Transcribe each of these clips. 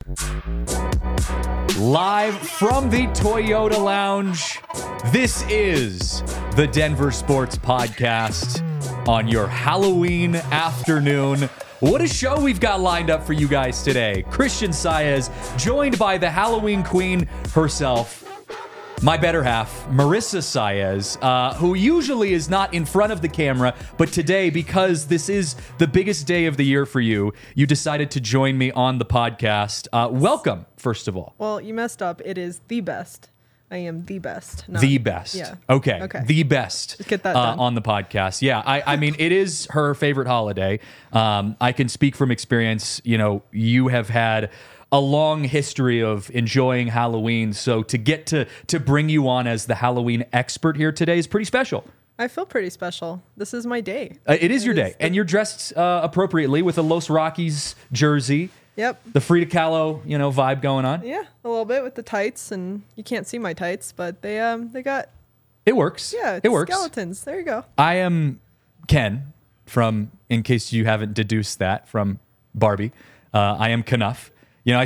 Live from the Toyota Lounge, this is the Denver Sports Podcast on your Halloween afternoon. What a show we've got lined up for you guys today. Christian Saez, joined by the Halloween queen herself, my better half, Marissa Saez, who usually is not in front of the camera, but today, because this is the biggest day of the year for you, you decided to join me on the podcast. Welcome, first of all. Well, you messed up. It is the best. I am the best. The best. Yeah. Okay. The best. Let's get that done. On the podcast. Yeah. I mean, it is her favorite holiday. I can speak from experience. You know, you have had a long history of enjoying Halloween. So to get to bring you on as the Halloween expert here today is pretty special. I feel pretty special. This is my day. It is your day. And you're dressed appropriately with a Los Rockies jersey. Yep. The Frida Kahlo, vibe going on. Yeah, a little bit with the tights, and you can't see my tights, but they got. It works. Yeah, it works. Skeletons. There you go. I am Ken from, in case you haven't deduced that from Barbie. I am Knuff. I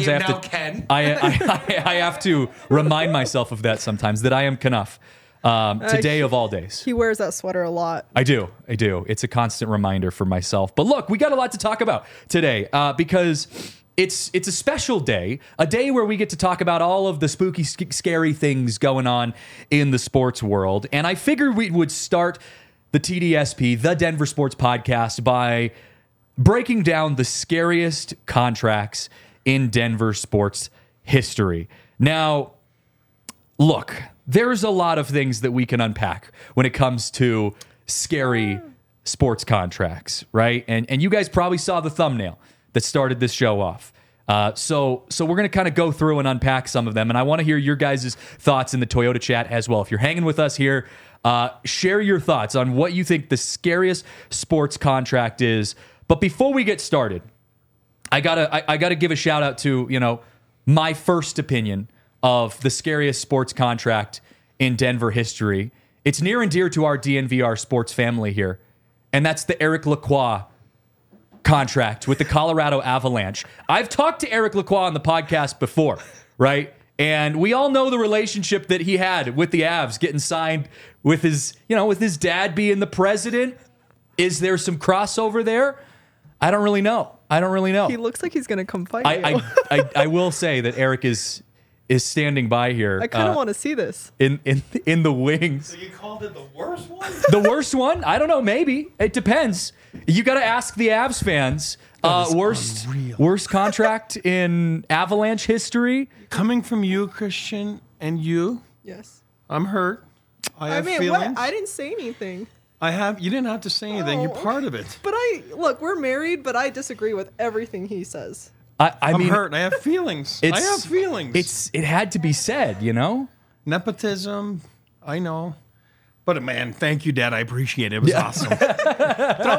have to remind myself of that sometimes, that I am Knuff. Today of all days. He wears that sweater a lot. I do. It's a constant reminder for myself. But look, we got a lot to talk about today because it's a special day, a day where we get to talk about all of the spooky, scary things going on in the sports world. And I figured we would start the TDSP, the Denver Sports Podcast, by breaking down the scariest contracts in Denver sports history. Now, look, there's a lot of things that we can unpack when it comes to scary sports contracts, right? And you guys probably saw the thumbnail that started this show off. So we're going to kind of go through and unpack some of them. And I want to hear your guys' thoughts in the Toyota chat as well. If you're hanging with us here, share your thoughts on what you think the scariest sports contract is. But before we get started, I gotta give a shout out to, my first opinion of the scariest sports contract in Denver history. It's near and dear to our DNVR sports family here, and that's the Eric Lacroix contract with the Colorado Avalanche. I've talked to Eric Lacroix on the podcast before, right? And we all know the relationship that he had with the Avs, getting signed with his dad being the president. Is there some crossover there? I don't really know. He looks like he's going to come fight you. I will say that Eric is standing by here. I kind of want to see this. In the wings. So you called it the worst one? The worst one? I don't know. Maybe. It depends. You got to ask the Avs fans. Worst contract in Avalanche history. Coming from you, Christian, and you. Yes. I'm hurt. I have feelings. What? I didn't say anything. You didn't have to say anything. You're part of it. But we're married, but I disagree with everything he says. I'm hurt. I have feelings. I have feelings. It had to be said, Nepotism. I know. But man, thank you, Dad. I appreciate it. It was awesome. Throw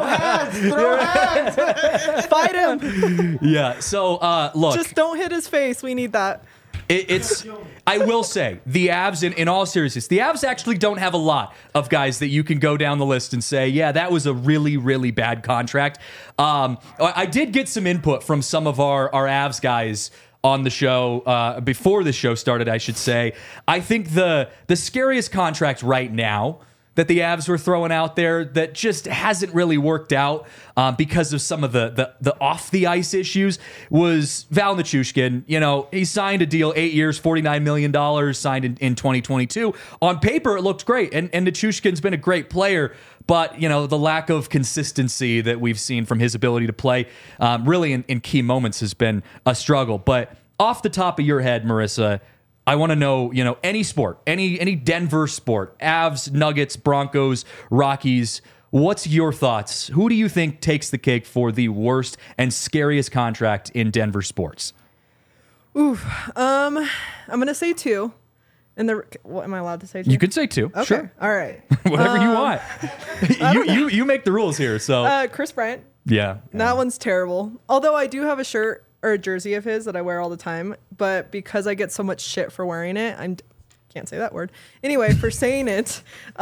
hands. Fight him. Yeah. So look. Just don't hit his face. We need that. I will say, the Avs, in all seriousness, the Avs actually don't have a lot of guys that you can go down the list and say, yeah, that was a really, really bad contract. I did get some input from some of our Avs guys on the show, before the show started, I should say. I think the scariest contract right now that the Avs were throwing out there that just hasn't really worked out because of some of the off-the-ice issues was Val Nichushkin. He signed a deal, 8 years, $49 million, signed in 2022. On paper, it looked great, and Nichushkin's been a great player, but, the lack of consistency that we've seen from his ability to play really in key moments has been a struggle. But off the top of your head, Marissa, I want to know, any sport, any Denver sport, Avs, Nuggets, Broncos, Rockies. What's your thoughts? Who do you think takes the cake for the worst and scariest contract in Denver sports? I'm going to say two. What am I allowed to say two? You can say two. Okay. Sure. All right. Whatever you want. You make the rules here. So Chris Bryant. Yeah. That one's terrible. Although I do have a shirt or a jersey of his that I wear all the time, but because I get so much shit for wearing it, can't say that word. Anyway, for saying it,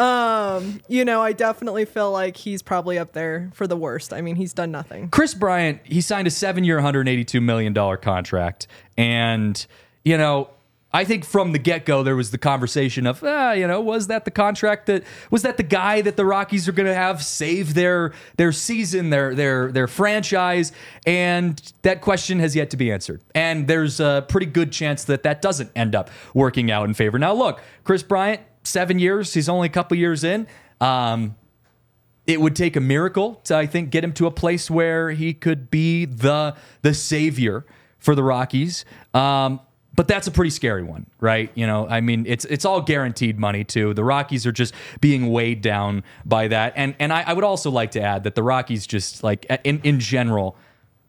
I definitely feel like he's probably up there for the worst. I mean, he's done nothing. Chris Bryant, he signed a 7-year, $182 million contract. And, I think from the get-go, there was the conversation of, was that the contract was that the guy that the Rockies are going to have save their season, their franchise? And that question has yet to be answered. And there's a pretty good chance that doesn't end up working out in favor. Now, look, Chris Bryant, 7 years, he's only a couple years in. It would take a miracle to, I think, get him to a place where he could be the savior for the Rockies. But that's a pretty scary one, right? It's all guaranteed money too. The Rockies are just being weighed down by that. And I would also like to add that the Rockies just like in general,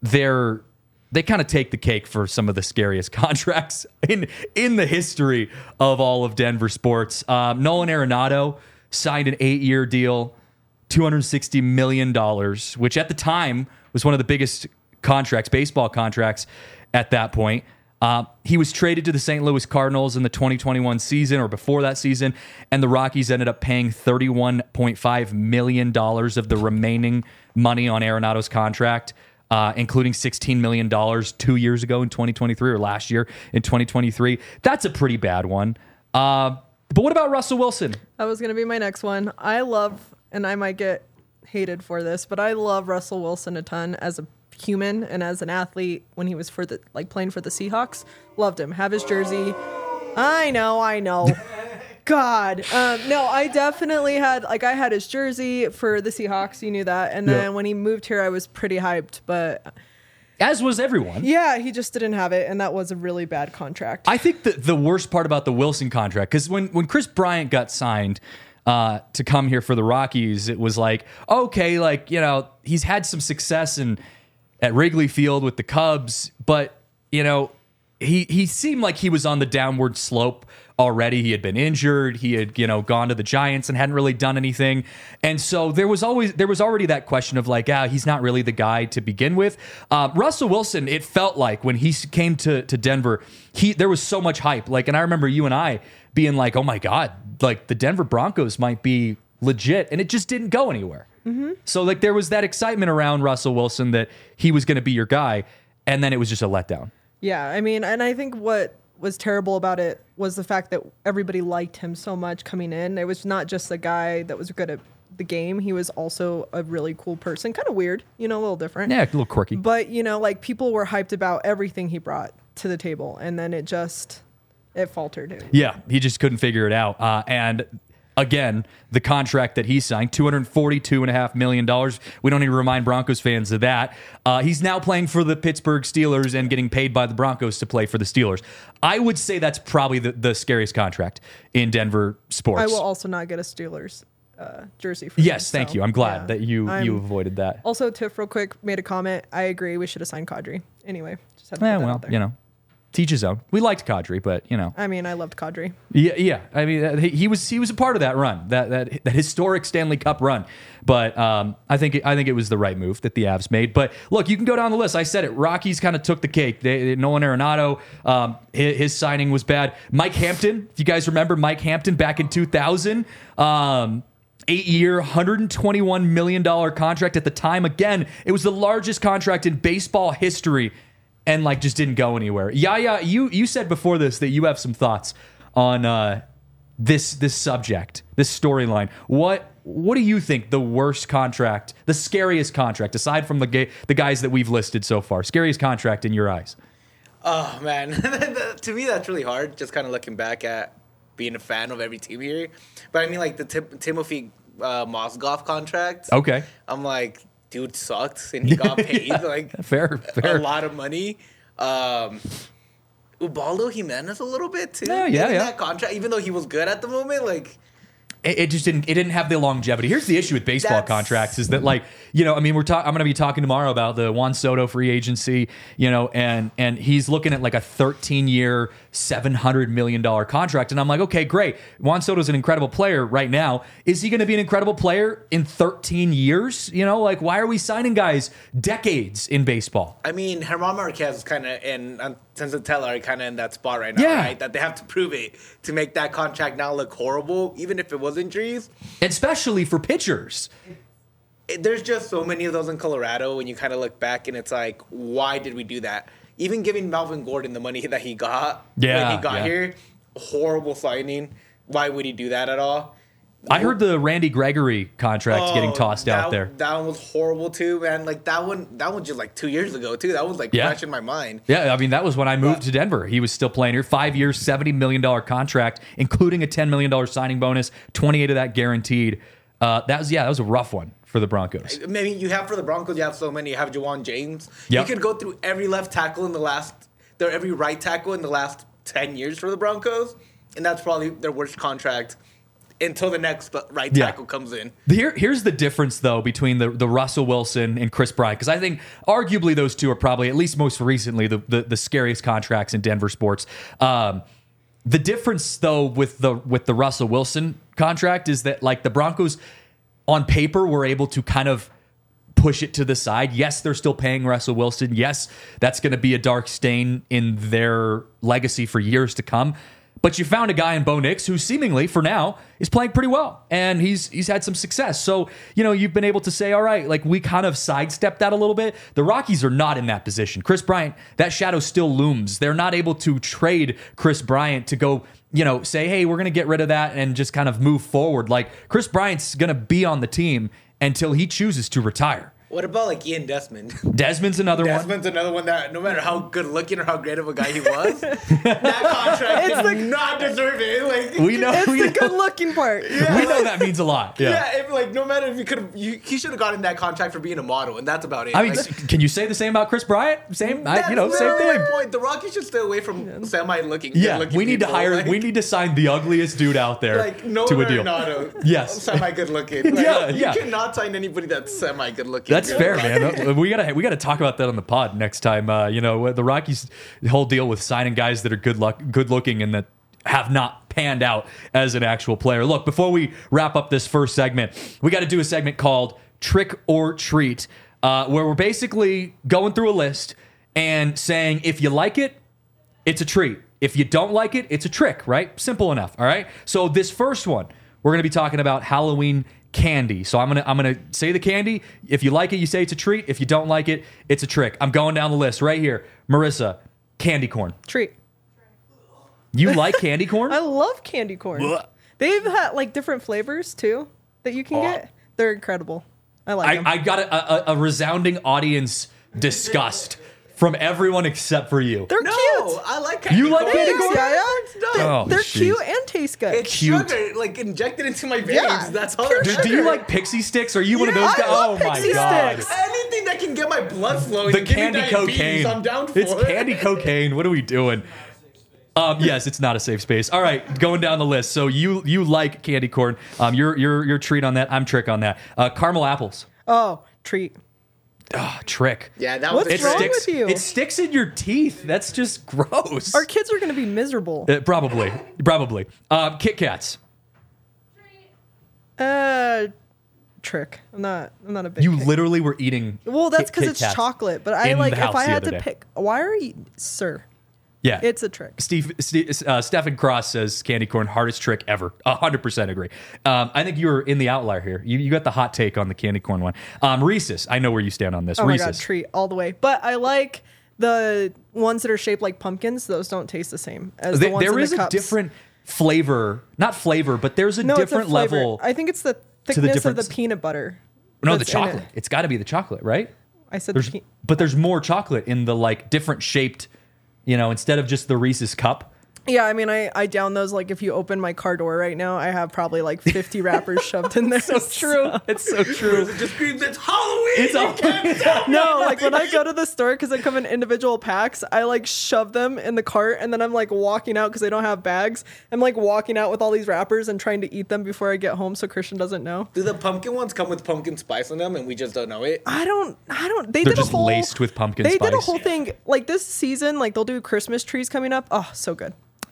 they kind of take the cake for some of the scariest contracts in the history of all of Denver sports. Nolan Arenado signed an 8-year deal, $260 million, which at the time was one of the biggest baseball contracts at that point. He was traded to the St. Louis Cardinals in the 2021 season or before that season, and the Rockies ended up paying $31.5 million of the remaining money on Arenado's contract, including $16 million 2 years ago in 2023 or last year in 2023. That's a pretty bad one. But what about Russell Wilson? That was going to be my next one. I love, and I might get hated for this, but I love Russell Wilson a ton as a human and as an athlete when he was playing for the Seahawks. Loved him. Have his jersey. I know. God. No, I definitely had his jersey for the Seahawks. You knew that. And then when he moved here, I was pretty hyped, but as was everyone. Yeah, he just didn't have it, and that was a really bad contract. I think the worst part about the Wilson contract, because when Chris Bryant got signed to come here for the Rockies, it was like, okay, he's had some success at Wrigley Field with the Cubs, but he seemed like he was on the downward slope already. He had been injured. He had gone to the Giants and hadn't really done anything, and so there was already that question of he's not really the guy to begin with. Russell Wilson, it felt like when he came to Denver, there was so much hype. And I remember you and I being like, oh my God, the Denver Broncos might be legit, and it just didn't go anywhere. Mm-hmm. So there was that excitement around Russell Wilson that he was going to be your guy, and then it was just a letdown. Yeah, I mean, and I think what was terrible about it was the fact that everybody liked him so much coming in. It was not just a guy that was good at the game. He was also a really cool person. Kind of weird, a little different. Yeah, a little quirky. But, people were hyped about everything he brought to the table, and then it faltered. Yeah, he just couldn't figure it out. And again, the contract that he signed, $242.5 million. We don't need to remind Broncos fans of that. He's now playing for the Pittsburgh Steelers and getting paid by the Broncos to play for the Steelers. I would say that's probably the scariest contract in Denver sports. I will also not get a Steelers jersey for Yes, thank you. I'm glad that you avoided that. Also, Tiff, real quick, made a comment. I agree. We should have signed Kadri. anyway. Just had to put that out there. You know, teach his own. We liked Kadri, but you know. I mean, I loved Kadri. Yeah. I mean, he was a part of that run, that historic Stanley Cup run. But I think it was the right move that the Avs made. But look, you can go down the list. I said it. Rockies kind of took the cake. Nolan Arenado, his signing was bad. Mike Hampton, if you guys remember Mike Hampton back in 2000. 8-year, $121 million contract at the time. Again, it was the largest contract in baseball history, and just didn't go anywhere. Yeah, you said before this that you have some thoughts on this subject, this storyline. What do you think the worst contract, the scariest contract, aside from the guys that we've listed so far, scariest contract in your eyes? Oh man, to me that's really hard. Just kind of looking back at being a fan of every team here, but I mean the Timofey Mozgov contract. Okay, I'm like, dude sucked and he got paid fair a lot of money. Ubaldo Jimenez a little bit too. Yeah. That contract, even though he was good at the moment, It just didn't have the longevity. Here's the issue with baseball contracts is that I'm going to be talking tomorrow about the Juan Soto free agency, and he's looking at a 13-year, $700 million contract. And I'm like, okay, great. Juan Soto's an incredible player right now. Is he going to be an incredible player in 13 years? You know, like, why are we signing guys decades in baseball? I mean, Germán Marquez is kind of in, Senzatella are kind of in that spot right now, Yeah. right? That they have to prove it to make that contract now look horrible, even if it was injuries. Especially for pitchers. There's just so many of those in Colorado when you kind of look back and it's like, why did we do that? Even giving Melvin Gordon the money that he got when he got here, horrible signing. Why would he do that at all? I heard the Randy Gregory contract getting tossed out there. That one was horrible too, man. Like that one just like 2 years ago too. That was like fresh in my mind. Yeah, I mean, that was when I moved to Denver. He was still playing here. 5 years, $70 million contract, including a $10 million signing bonus, 28 of that guaranteed. That was a rough one for the Broncos. Maybe you have for the Broncos, you have so many. You have Juwan James. Yep. You could go through every left tackle every right tackle in the last 10 years for the Broncos, and that's probably their worst contract until the next right tackle comes in. Here's the difference, though, between the Russell Wilson and Chris Bryant, because I think arguably those two are probably, at least most recently, the scariest contracts in Denver sports. The difference, though, with the Russell Wilson contract is that, like, the Broncos on paper were able to kind of push it to the side. Yes, they're still paying Russell Wilson. Yes, that's going to be a dark stain in their legacy for years to come. But you found a guy in Bo Nix who seemingly, for now, is playing pretty well. And he's had some success. So, you know, you've been able to say, all right, like, we kind of sidestepped that a little bit. The Rockies are not in that position. Chris Bryant, that shadow still looms. They're not able to trade Chris Bryant to go, you know, say, hey, we're going to get rid of that and just kind of move forward. Like, Chris Bryant's going to be on the team until he chooses to retire. What about like Ian Desmond? Desmond's another one. Desmond's another one that no matter how good looking or how great of a guy he was, that contract did not deserve it. Like We know It's the good looking part. we know that means a lot. Yeah. yeah, if, like no matter if he should have gotten that contract for being a model, and that's about it. I mean, Like, can you say the same about Chris Bryant? Same, that's same literally thing. my point. The Rockies should stay away from semi-looking. Yeah, good-looking we need to people. hire. Like, we need to sign the ugliest dude out there like no to a deal. Arenado, Yes. semi-good looking. Like, Yeah, you yeah. cannot sign anybody that's semi-good looking. That's fair, man. We gotta talk about that on the pod next time. You know, the Rockies' whole deal with signing guys that are good looking and that have not panned out as an actual player. Look, before we wrap up this first segment, we got to do a segment called Trick or Treat, where we're basically going through a list and saying if you like it, it's a treat. If you don't like it, it's a trick, right? Simple enough, all right? So this first one, we're going to be talking about Halloween candy. So I'm gonna say the candy. If you like it, you say it's a treat. If you don't like it, it's a trick. I'm going down the list right here. Marissa, candy corn. Treat. You like candy corn? I love candy corn. They've had like different flavors too that you can get. They're incredible. I like them. I got a resounding audience disgust from everyone except for you. They're No, cute. I like candy You like corn. candy Thanks, corn? Yaya. Oh, They're jeez. cute and taste good. It's Cute. sugar, like injected into my veins. Yeah, That's all. pure it is. Do you like pixie sticks? Are you one of those I guys? love Oh my Pixie god. Sticks. Anything that can get my blood flowing. The and give me candy diabetes, cocaine. I'm down for It's it. candy cocaine. What are we doing? Yes, it's not a safe space. All right, going down the list. So you like candy corn. You're treat on that. I'm trick on that. Caramel apples. Oh, treat. Trick. Yeah, that What's was wrong sticks, with you? It sticks in your teeth. That's just gross. Our kids are going to be miserable. Probably. Kit Kats. Trick. I'm not a big. You Kit- literally were eating. Well, that's because Kit it's Kats chocolate. But I in like the if house I the had other to day. pick. Why are you, sir? Yeah, It's a trick. Stephen Cross says candy corn hardest trick ever. 100% agree. I think you were in the outlier here. You got the hot take on the candy corn one. Reese's. I know where you stand on this. Oh my Reese's. god, treat all the way. But I like the ones that are shaped like pumpkins. Those don't taste the same as the ones There in is the a cups. different flavor, not flavor, but there's a No, it's a different flavor. level. I think it's the the thickness of difference. the peanut butter. No, the that's in it. chocolate. It's got to be the chocolate, right? I said There's, but there's more chocolate in the like different shaped, instead of just the Reese's cup. Yeah, I mean, I down those. Like, if you open my car door right now, I have probably like 50 wrappers shoved in there. It's so true. It just screams, it's Halloween! It's You all- can't tell me No, like nothing. when I go to the store because they come in individual packs, I like shove them in the cart and then I'm like walking out because they don't have bags. I'm like walking out with all these wrappers and trying to eat them before I get home so Christian doesn't know. Do the pumpkin ones come with pumpkin spice in them and we just don't know it? I don't. They They're did just a whole, laced with pumpkin They did a spice. whole thing like this season. Like they'll do Christmas trees coming up. Oh, so good.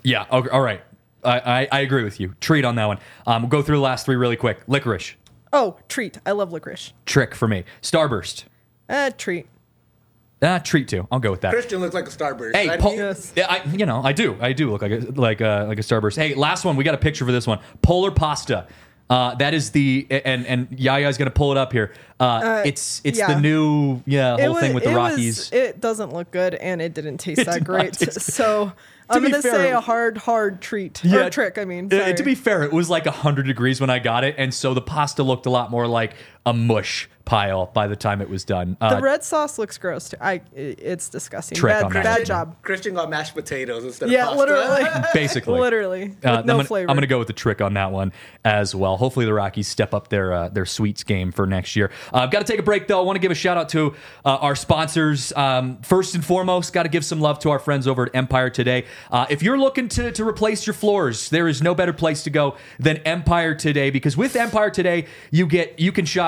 Yeah. Okay, all right. I agree with you. Treat on that one. We'll go through the last three really quick. Licorice. Oh, treat. I love licorice. Trick for me. Starburst. Treat. Treat too. I'll go with that. Christian looks like a Starburst. Hey, Yes. yeah, I do look like a Starburst. Hey, last one. We got a picture for this one. Polar pasta. That is and Yaya's gonna pull it up here. It's yeah. the new whole thing with the Rockies. It doesn't look good, and it didn't taste It that did not great. taste good. So I'm be gonna fair, say a hard treat or trick. I mean, sorry. to be fair, it was like 100 degrees when I got it, and so the pasta looked a lot more like a mush pile by the time it was done. The red sauce looks gross. It's disgusting. Trick on that. Bad job. Christian got mashed potatoes instead of Yeah, pasta. literally. Basically, Literally. With no flavor. I'm gonna go with the trick on that one as well. Hopefully, the Rockies step up their sweets game for next year. I've got to take a break though. I want to give a shout out to our sponsors. First and foremost, got to give some love to our friends over at Empire Today. If you're looking to replace your floors, there is no better place to go than Empire Today, because with Empire Today, you get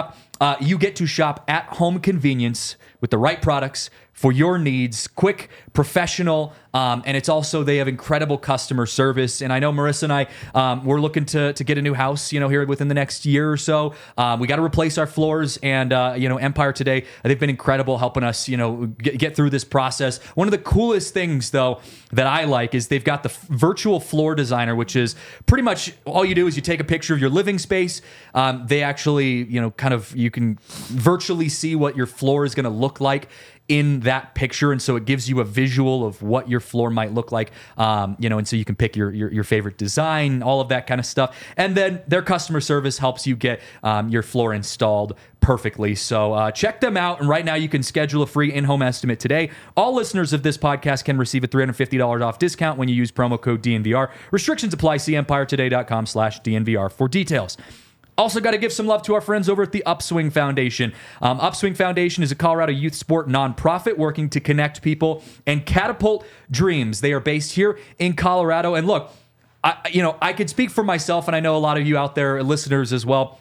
to shop at home convenience with the right products for your needs, quick, professional, and it's also, they have incredible customer service. And I know Marissa and I, we're looking to get a new house, here within the next year or so. We got to replace our floors, and Empire Today, they've been incredible helping us, get through this process. One of the coolest things though that I like is they've got the virtual floor designer, which is pretty much all you do is you take a picture of your living space. They actually, you can virtually see what your floor is going to look like in that picture, and so it gives you a visual of what your floor might look like, and so you can pick your favorite design, all of that kind of stuff, and then their customer service helps you get your floor installed perfectly. So check them out, and right now you can schedule a free in-home estimate today. All listeners of this podcast can receive a $350 off discount when you use promo code DNVR. Restrictions apply. See EmpireToday.com/DNVR for details. Also got to give some love to our friends over at the Upswing Foundation. Upswing Foundation is a Colorado youth sport nonprofit working to connect people and catapult dreams. They are based here in Colorado. And look, I could speak for myself, and I know a lot of you out there, listeners as well.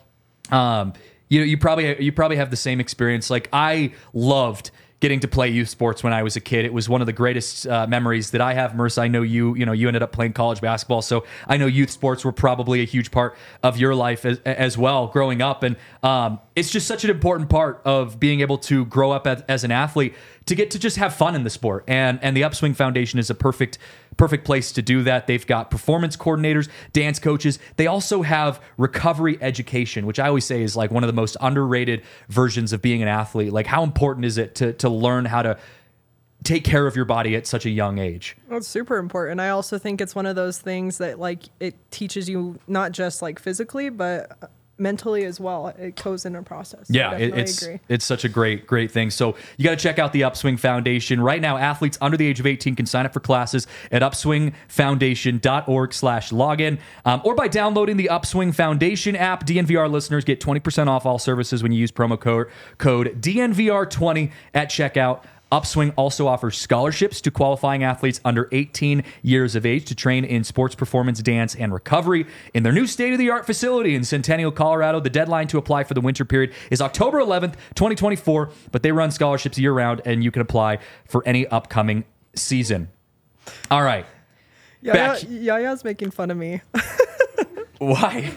You probably have the same experience. Like, I loved getting to play youth sports when I was a kid. It was one of the greatest memories that I have. Marissa, I know you ended up playing college basketball, so I know youth sports were probably a huge part of your life as well growing up. And it's just such an important part of being able to grow up as an athlete, to get to just have fun in the sport. And the Upswing Foundation is a perfect place to do that. They've got performance coordinators, dance coaches. They also have recovery education, which I always say is like one of the most underrated versions of being an athlete. Like, how important is it to learn how to take care of your body at such a young age? Well, it's super important. I also think it's one of those things that, like, it teaches you not just like physically, but mentally as well. It goes in a process. Yeah, it's such a great thing. So you got to check out the Upswing Foundation. Right now, athletes under the age of 18 can sign up for classes at upswingfoundation.org/login, or by downloading the Upswing Foundation app. DNVR listeners get 20% off all services when you use promo code DNVR20 at checkout. Upswing also offers scholarships to qualifying athletes under 18 years of age to train in sports performance, dance, and recovery in their new state-of-the-art facility in Centennial, Colorado. The deadline to apply for the winter period is October 11th, 2024, but they run scholarships year-round, and you can apply for any upcoming season. All right. Yaya's making fun of me. Why?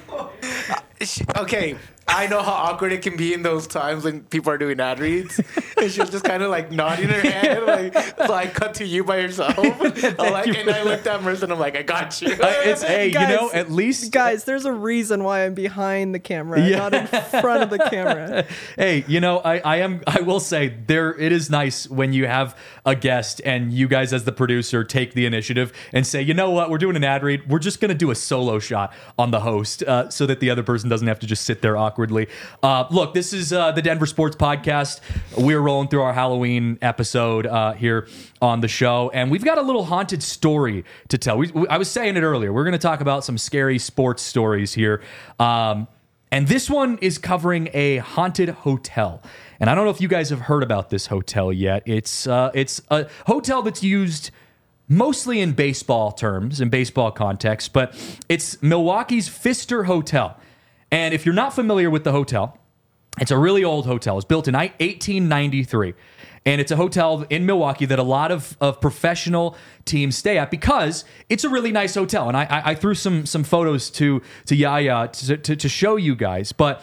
Okay, I know how awkward it can be in those times when people are doing ad reads. And she was just kind of like nodding her head, like cut to you by yourself. And I looked at Marissa and I'm like, I got you. Guys, at least... Guys, there's a reason why I'm behind the camera, not in front of the camera. Hey, I will say, it is nice when you have a guest and you guys as the producer take the initiative and say, you know what, we're doing an ad read. We're just going to do a solo shot on the host so that the other person doesn't have to just sit there awkwardly. Look, this is the Denver Sports Podcast. We're rolling through our Halloween episode here on the show, and we've got a little haunted story to tell. I was saying it earlier. We're going to talk about some scary sports stories here. And this one is covering a haunted hotel. And I don't know if you guys have heard about this hotel yet. It's a hotel that's used mostly in baseball terms, in baseball context, but it's Milwaukee's Pfister Hotel. And if you're not familiar with the hotel, It's a really old hotel. It was built in 1893. And it's a hotel in Milwaukee that a lot of professional teams stay at because it's a really nice hotel. And I threw some photos to Yaya to show you guys. But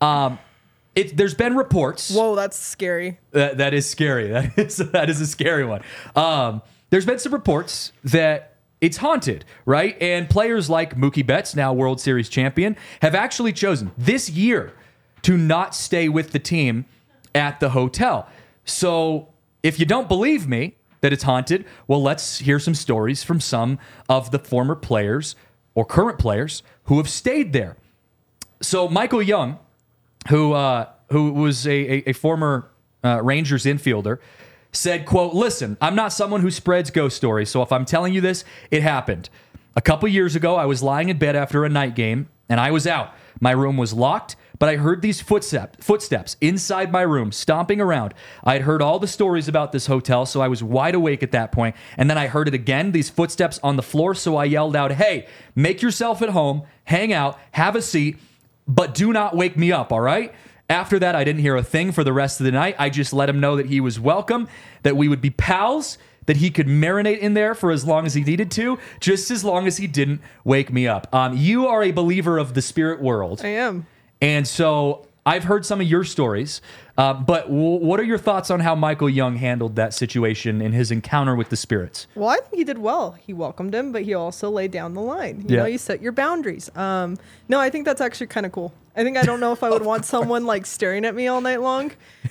there's been reports. Whoa, that's scary. That is scary. That is a scary one. There's been some reports that it's haunted, right? And players like Mookie Betts, now World Series champion, have actually chosen this year to not stay with the team at the hotel. So if you don't believe me that it's haunted, well, let's hear some stories from some of the former players or current players who have stayed there. So Michael Young, who was a former Rangers infielder, said, quote, "Listen, I'm not someone who spreads ghost stories, so if I'm telling you this, it happened. A couple years ago, I was lying in bed after a night game, and I was out. My room was locked, but I heard these footsteps inside my room, stomping around. I had heard all the stories about this hotel, so I was wide awake at that point. And then I heard it again, these footsteps on the floor, so I yelled out, 'Hey, make yourself at home, hang out, have a seat, but do not wake me up, all right?' After that, I didn't hear a thing for the rest of the night. I just let him know that he was welcome, that we would be pals, that he could marinate in there for as long as he needed to, just as long as he didn't wake me up." You are a believer of the spirit world. I am. And so I've heard some of your stories, but what are your thoughts on how Michael Young handled that situation in his encounter with the spirits? Well, I think he did well. He welcomed him, but he also laid down the line. You know, you set your boundaries. No, I think that's actually kind of cool. I don't know if I would want someone like staring at me all night long.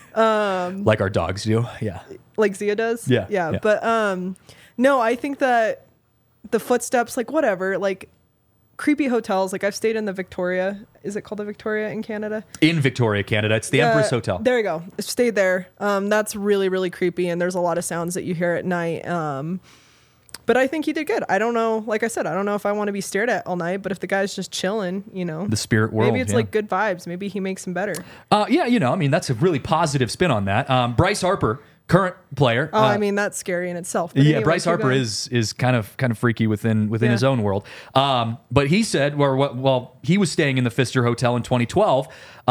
Like our dogs do. Yeah. Like Zia does. Yeah. But no, I think that the footsteps, like whatever, like creepy hotels. Like I've stayed in the Victoria. Is it called the Victoria in Canada? In Victoria, Canada. It's the Empress Hotel. There you go. I've stayed there. That's really, really creepy. And there's a lot of sounds that you hear at night. But I think he did good. I don't know. Like I said, I don't know if I want to be stared at all night, but if the guy's just chilling, the spirit world, maybe it's like good vibes. Maybe he makes him better. That's a really positive spin on that. Bryce Harper, current player. That's scary in itself. But anyway, Bryce Harper is kind of freaky within his own world. But he said, he was staying in the Pfister Hotel in 2012.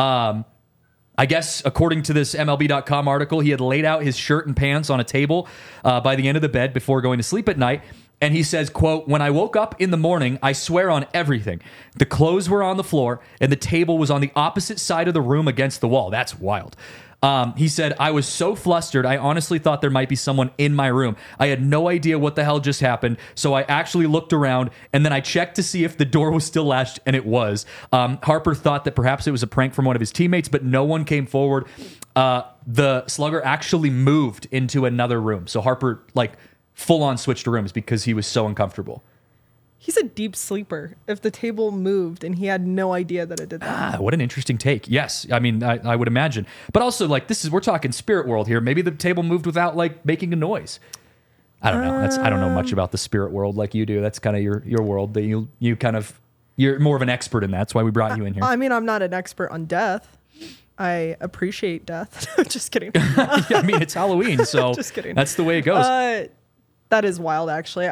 I guess, according to this MLB.com article, he had laid out his shirt and pants on a table by the end of the bed before going to sleep at night. And he says, quote, "When I woke up in the morning, I swear on everything, the clothes were on the floor and the table was on the opposite side of the room against the wall." That's wild. He said, "I was so flustered, I honestly thought there might be someone in my room. I had no idea what the hell just happened, so I actually looked around, and then I checked to see if the door was still latched, and it was." Harper thought that perhaps it was a prank from one of his teammates, but no one came forward. The slugger actually moved into another room, so Harper, full-on switched rooms because he was so uncomfortable. He's a deep sleeper. If the table moved and he had no idea that it did that. What an interesting take. Yes. I mean, I would imagine. But also, we're talking spirit world here. Maybe the table moved without, making a noise. I don't know. I don't know much about the spirit world like you do. That's kind of your world that you're more of an expert in that. That's why we brought you in here. I'm not an expert on death. I appreciate death. Just kidding. It's Halloween, so just kidding. That's the way it goes. That is wild, actually.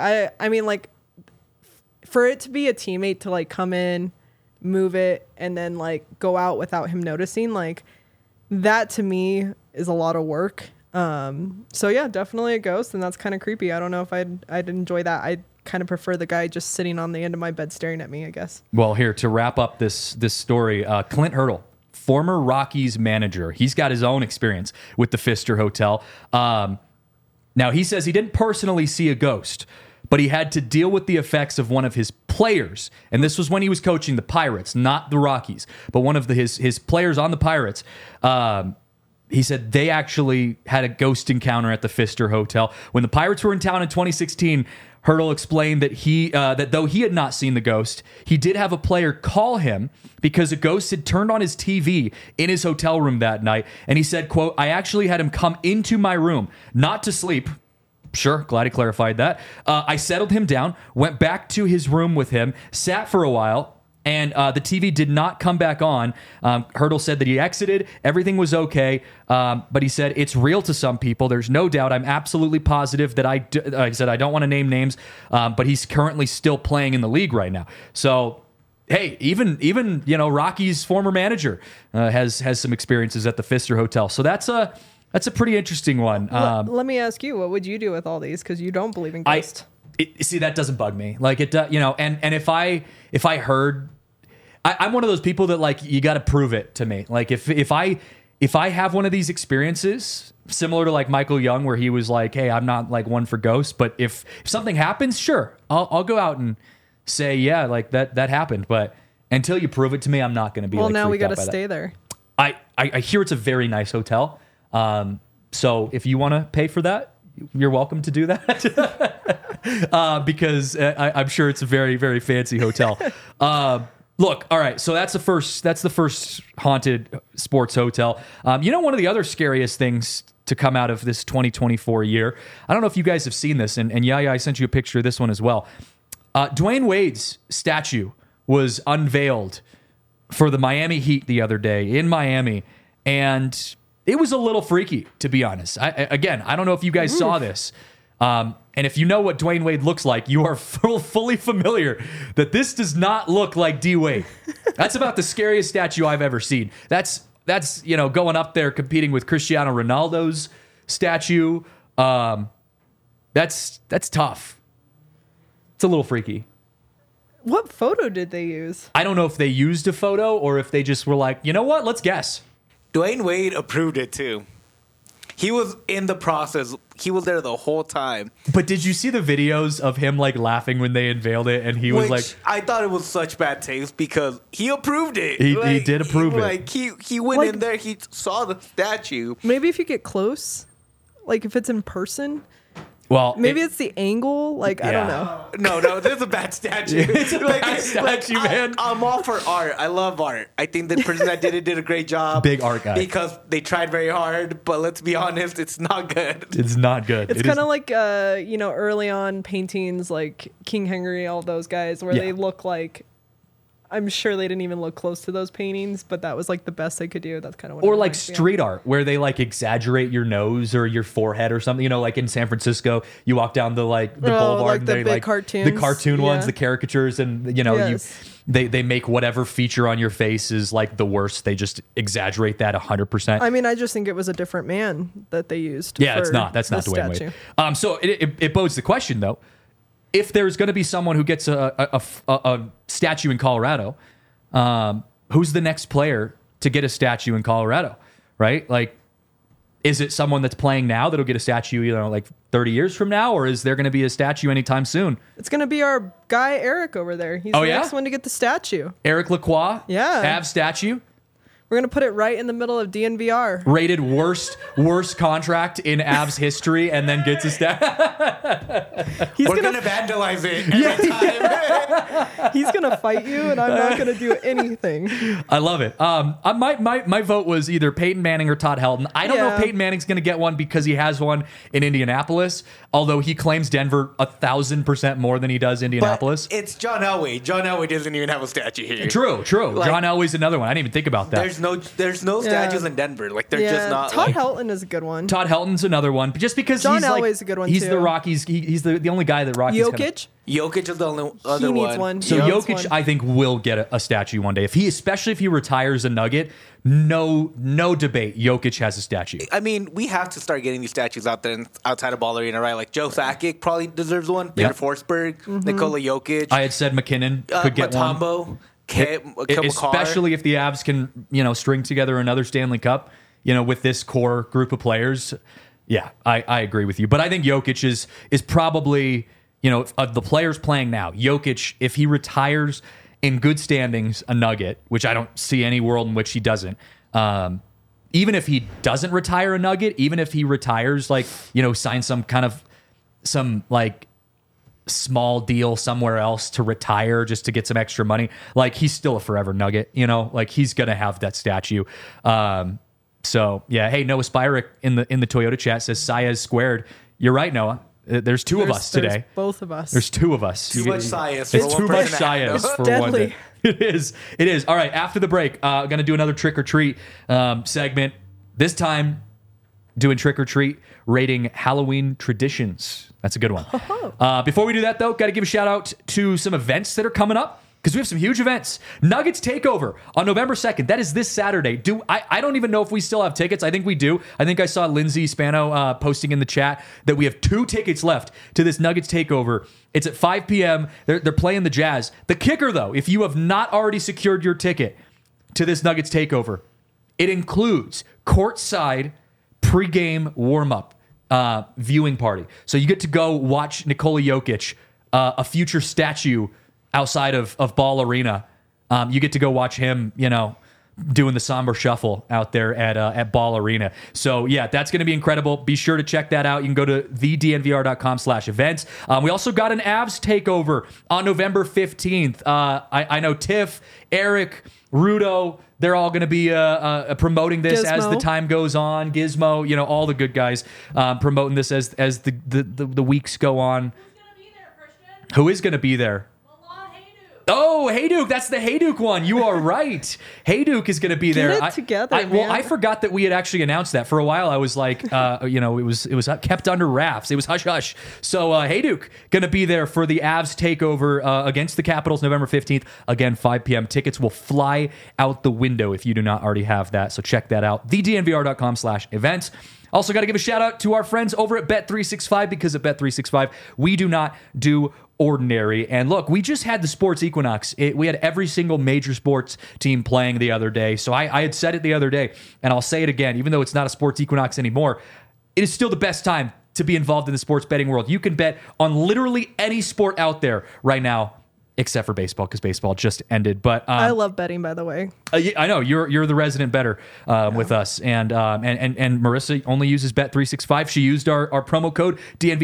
For it to be a teammate to come in, move it, and then go out without him noticing, that to me is a lot of work. So yeah, definitely a ghost, and that's kind of creepy. I don't know if I'd enjoy that. I kind of prefer the guy just sitting on the end of my bed staring at me, I guess. Well, here to wrap up this story, Clint Hurdle, former Rockies manager, he's got his own experience with the Pfister Hotel. Now he says he didn't personally see a ghost, but he had to deal with the effects of one of his players. And this was when he was coaching the Pirates, not the Rockies, but one of his players on the Pirates. He said they actually had a ghost encounter at the Pfister Hotel. When the Pirates were in town in 2016, Hurdle explained that that though he had not seen the ghost, he did have a player call him because a ghost had turned on his TV in his hotel room that night. And he said, quote, "I actually had him come into my room, not to sleep." Sure, glad he clarified that. "I settled him down, went back to his room with him, sat for a while, and the TV did not come back on." Hurdle said that he exited. Everything was okay. But he said, "It's real to some people. There's no doubt. I'm absolutely positive that he said, I don't want to name names, but he's currently still playing in the league right now." So hey, even Rocky's former manager has some experiences at the Pfister Hotel. So that's a pretty interesting one. Let me ask you, what would you do with all these? Because you don't believe in ghosts. See, that doesn't bug me. Like it, and if I heard, I'm one of those people that like you got to prove it to me. Like if I have one of these experiences similar to like Michael Young, where he was like, hey, I'm not like one for ghosts, but if something happens, sure, I'll go out and say, yeah, like that happened. But until you prove it to me, I'm not going to be. Well, like, now we got to stay there. I hear it's a very nice hotel. So if you want to pay for that, you're welcome to do that. Because I'm sure it's a very, very fancy hotel. Look, all right. So that's the first haunted sports hotel. One of the other scariest things to come out of this 2024 year, I don't know if you guys have seen this, and Yaya, I sent you a picture of this one as well. Dwayne Wade's statue was unveiled for the Miami Heat the other day in Miami, and it was a little freaky, to be honest. I don't know if you guys saw this. And if you know what Dwayne Wade looks like, you are fully familiar that this does not look like D Wade. That's about the scariest statue I've ever seen. That's going up there competing with Cristiano Ronaldo's statue. That's tough. It's a little freaky. What photo did they use? I don't know if they used a photo or if they just were like, you know what? Let's guess. Dwayne Wade approved it too. He was in the process. He was there the whole time. But did you see the videos of him like laughing when they unveiled it? And he was like, I thought it was such bad taste because he approved it. He did approve it. Like he went in there. He saw the statue. Maybe if you get close, like if it's in person. Well, maybe it's the angle. Like, I don't know. No, this is a bad statue. It's a bad statue, man. I'm all for art. I love art. I think the person that did it did a great job. Big art guy. Because they tried very hard, but let's be honest, it's not good. It's not good. It's kind of like, early on paintings like King Henry, all those guys, where they look like, I'm sure they didn't even look close to those paintings, but that was like the best they could do. That's kind of what. Or like street art, where they like exaggerate your nose or your forehead or something. Like in San Francisco, you walk down the boulevard, like and the they big like cartoons. the cartoon ones, the caricatures, and they make whatever feature on your face is like the worst. They just exaggerate that 100%. I mean, I just think it was a different man that they used. Yeah, it's not. That's not Dwayne Wade. So it bodes the question though. If there's going to be someone who gets a statue in Colorado, who's the next player to get a statue in Colorado, right? Like, is it someone that's playing now that'll get a statue, like 30 years from now, or is there going to be a statue anytime soon? It's going to be our guy Eric over there. He's the next one to get the statue. Eric Lacroix, Avs statue. We're going to put it right in the middle of DNVR. Rated worst contract in Avs history, and then gets a stat. We're going to vandalize it every time. He's going to fight you, and I'm not going to do anything. I love it. My vote was either Peyton Manning or Todd Helton. I don't know if Peyton Manning's going to get one because he has one in Indianapolis, although he claims Denver 1,000% more than he does Indianapolis. But it's John Elway. John Elway doesn't even have a statue here. True. Like, John Elway's another one. I didn't even think about that. There's no statues in Denver. Like they're just not. Todd Helton is a good one. Todd Helton's another one, just because John Elway's a good one. He's too. the Rockies. He's the only guy that Rockies. Jokic is the only other he one. Needs one. So Jokic, I think, will get a statue one day. Especially if he retires a Nugget, no debate. Jokic has a statue. I mean, we have to start getting these statues out there outside of Ball Arena, right? Like Joe Sakic probably deserves one. Peter Forsberg, Nikola Jokic. I had said McKinnon could get one. Especially if the Avs can, string together another Stanley Cup, with this core group of players. Yeah, I agree with you. But I think Jokic is probably, of the players playing now, Jokic, if he retires in good standings, a Nugget, which I don't see any world in which he doesn't. Even if he doesn't retire a Nugget, even if he retires, sign some small deal somewhere else to retire just to get some extra money, he's still a forever Nugget, he's gonna have that statue. So yeah, hey, Noah Spyrick in the Toyota chat says Saez squared. You're right, Noah. There's two of us today. Both of us. There's two of us. Too much Saez. It's too much Saez for deadly. one day. It is. All right, after the break, gonna do another trick or treat segment. This time, doing trick or treat, rating Halloween traditions. That's a good one. Before we do that, though, got to give a shout out to some events that are coming up because we have some huge events. Nuggets Takeover on November 2nd. That is this Saturday. I don't even know if we still have tickets. I think we do. I think I saw Lindsay Spano posting in the chat that we have 2 tickets left to this Nuggets Takeover. It's at 5 p.m. They're playing the Jazz. The kicker, though, if you have not already secured your ticket to this Nuggets Takeover, it includes courtside pregame warm-up viewing party. So you get to go watch Nikola Jokic, a future statue outside of Ball Arena. You get to go watch him, doing the somber shuffle out there at Ball Arena. So yeah, that's going to be incredible. Be sure to check that out. You can go to thednvr.com/events. We also got an Avs takeover on November 15th. I know Tiff, Eric, Rudo, they're all going to be promoting this Gizmo. as the time goes on. Gizmo, all the good guys promoting this as the weeks go on. Who's gonna be there, Christian? Who is going to be there? Milan Hayduk. Oh, Hayduk. That's the Hayduk one. You are right. Hayduk is going to be there. it together, Well, man. I forgot that we had actually announced that. For a while, I was like, it was kept under wraps. It was hush hush. So Hayduk going to be there for the Avs takeover against the Capitals November 15th. Again, 5 p.m. Tickets will fly out the window if you do not already have that. So check that out. thednvr.com/events. Also, got to give a shout out to our friends over at Bet365, because at Bet365, we do not do ordinary. And look, we just had the sports equinox. We had every single major sports team playing the other day. So I had said it the other day, and I'll say it again, even though it's not a sports equinox anymore, it is still the best time to be involved in the sports betting world. You can bet on literally any sport out there right now, except for baseball, because baseball just ended. But I love betting, by the way. I know you're the resident bettor with us, and Marissa only uses Bet365. She used our promo code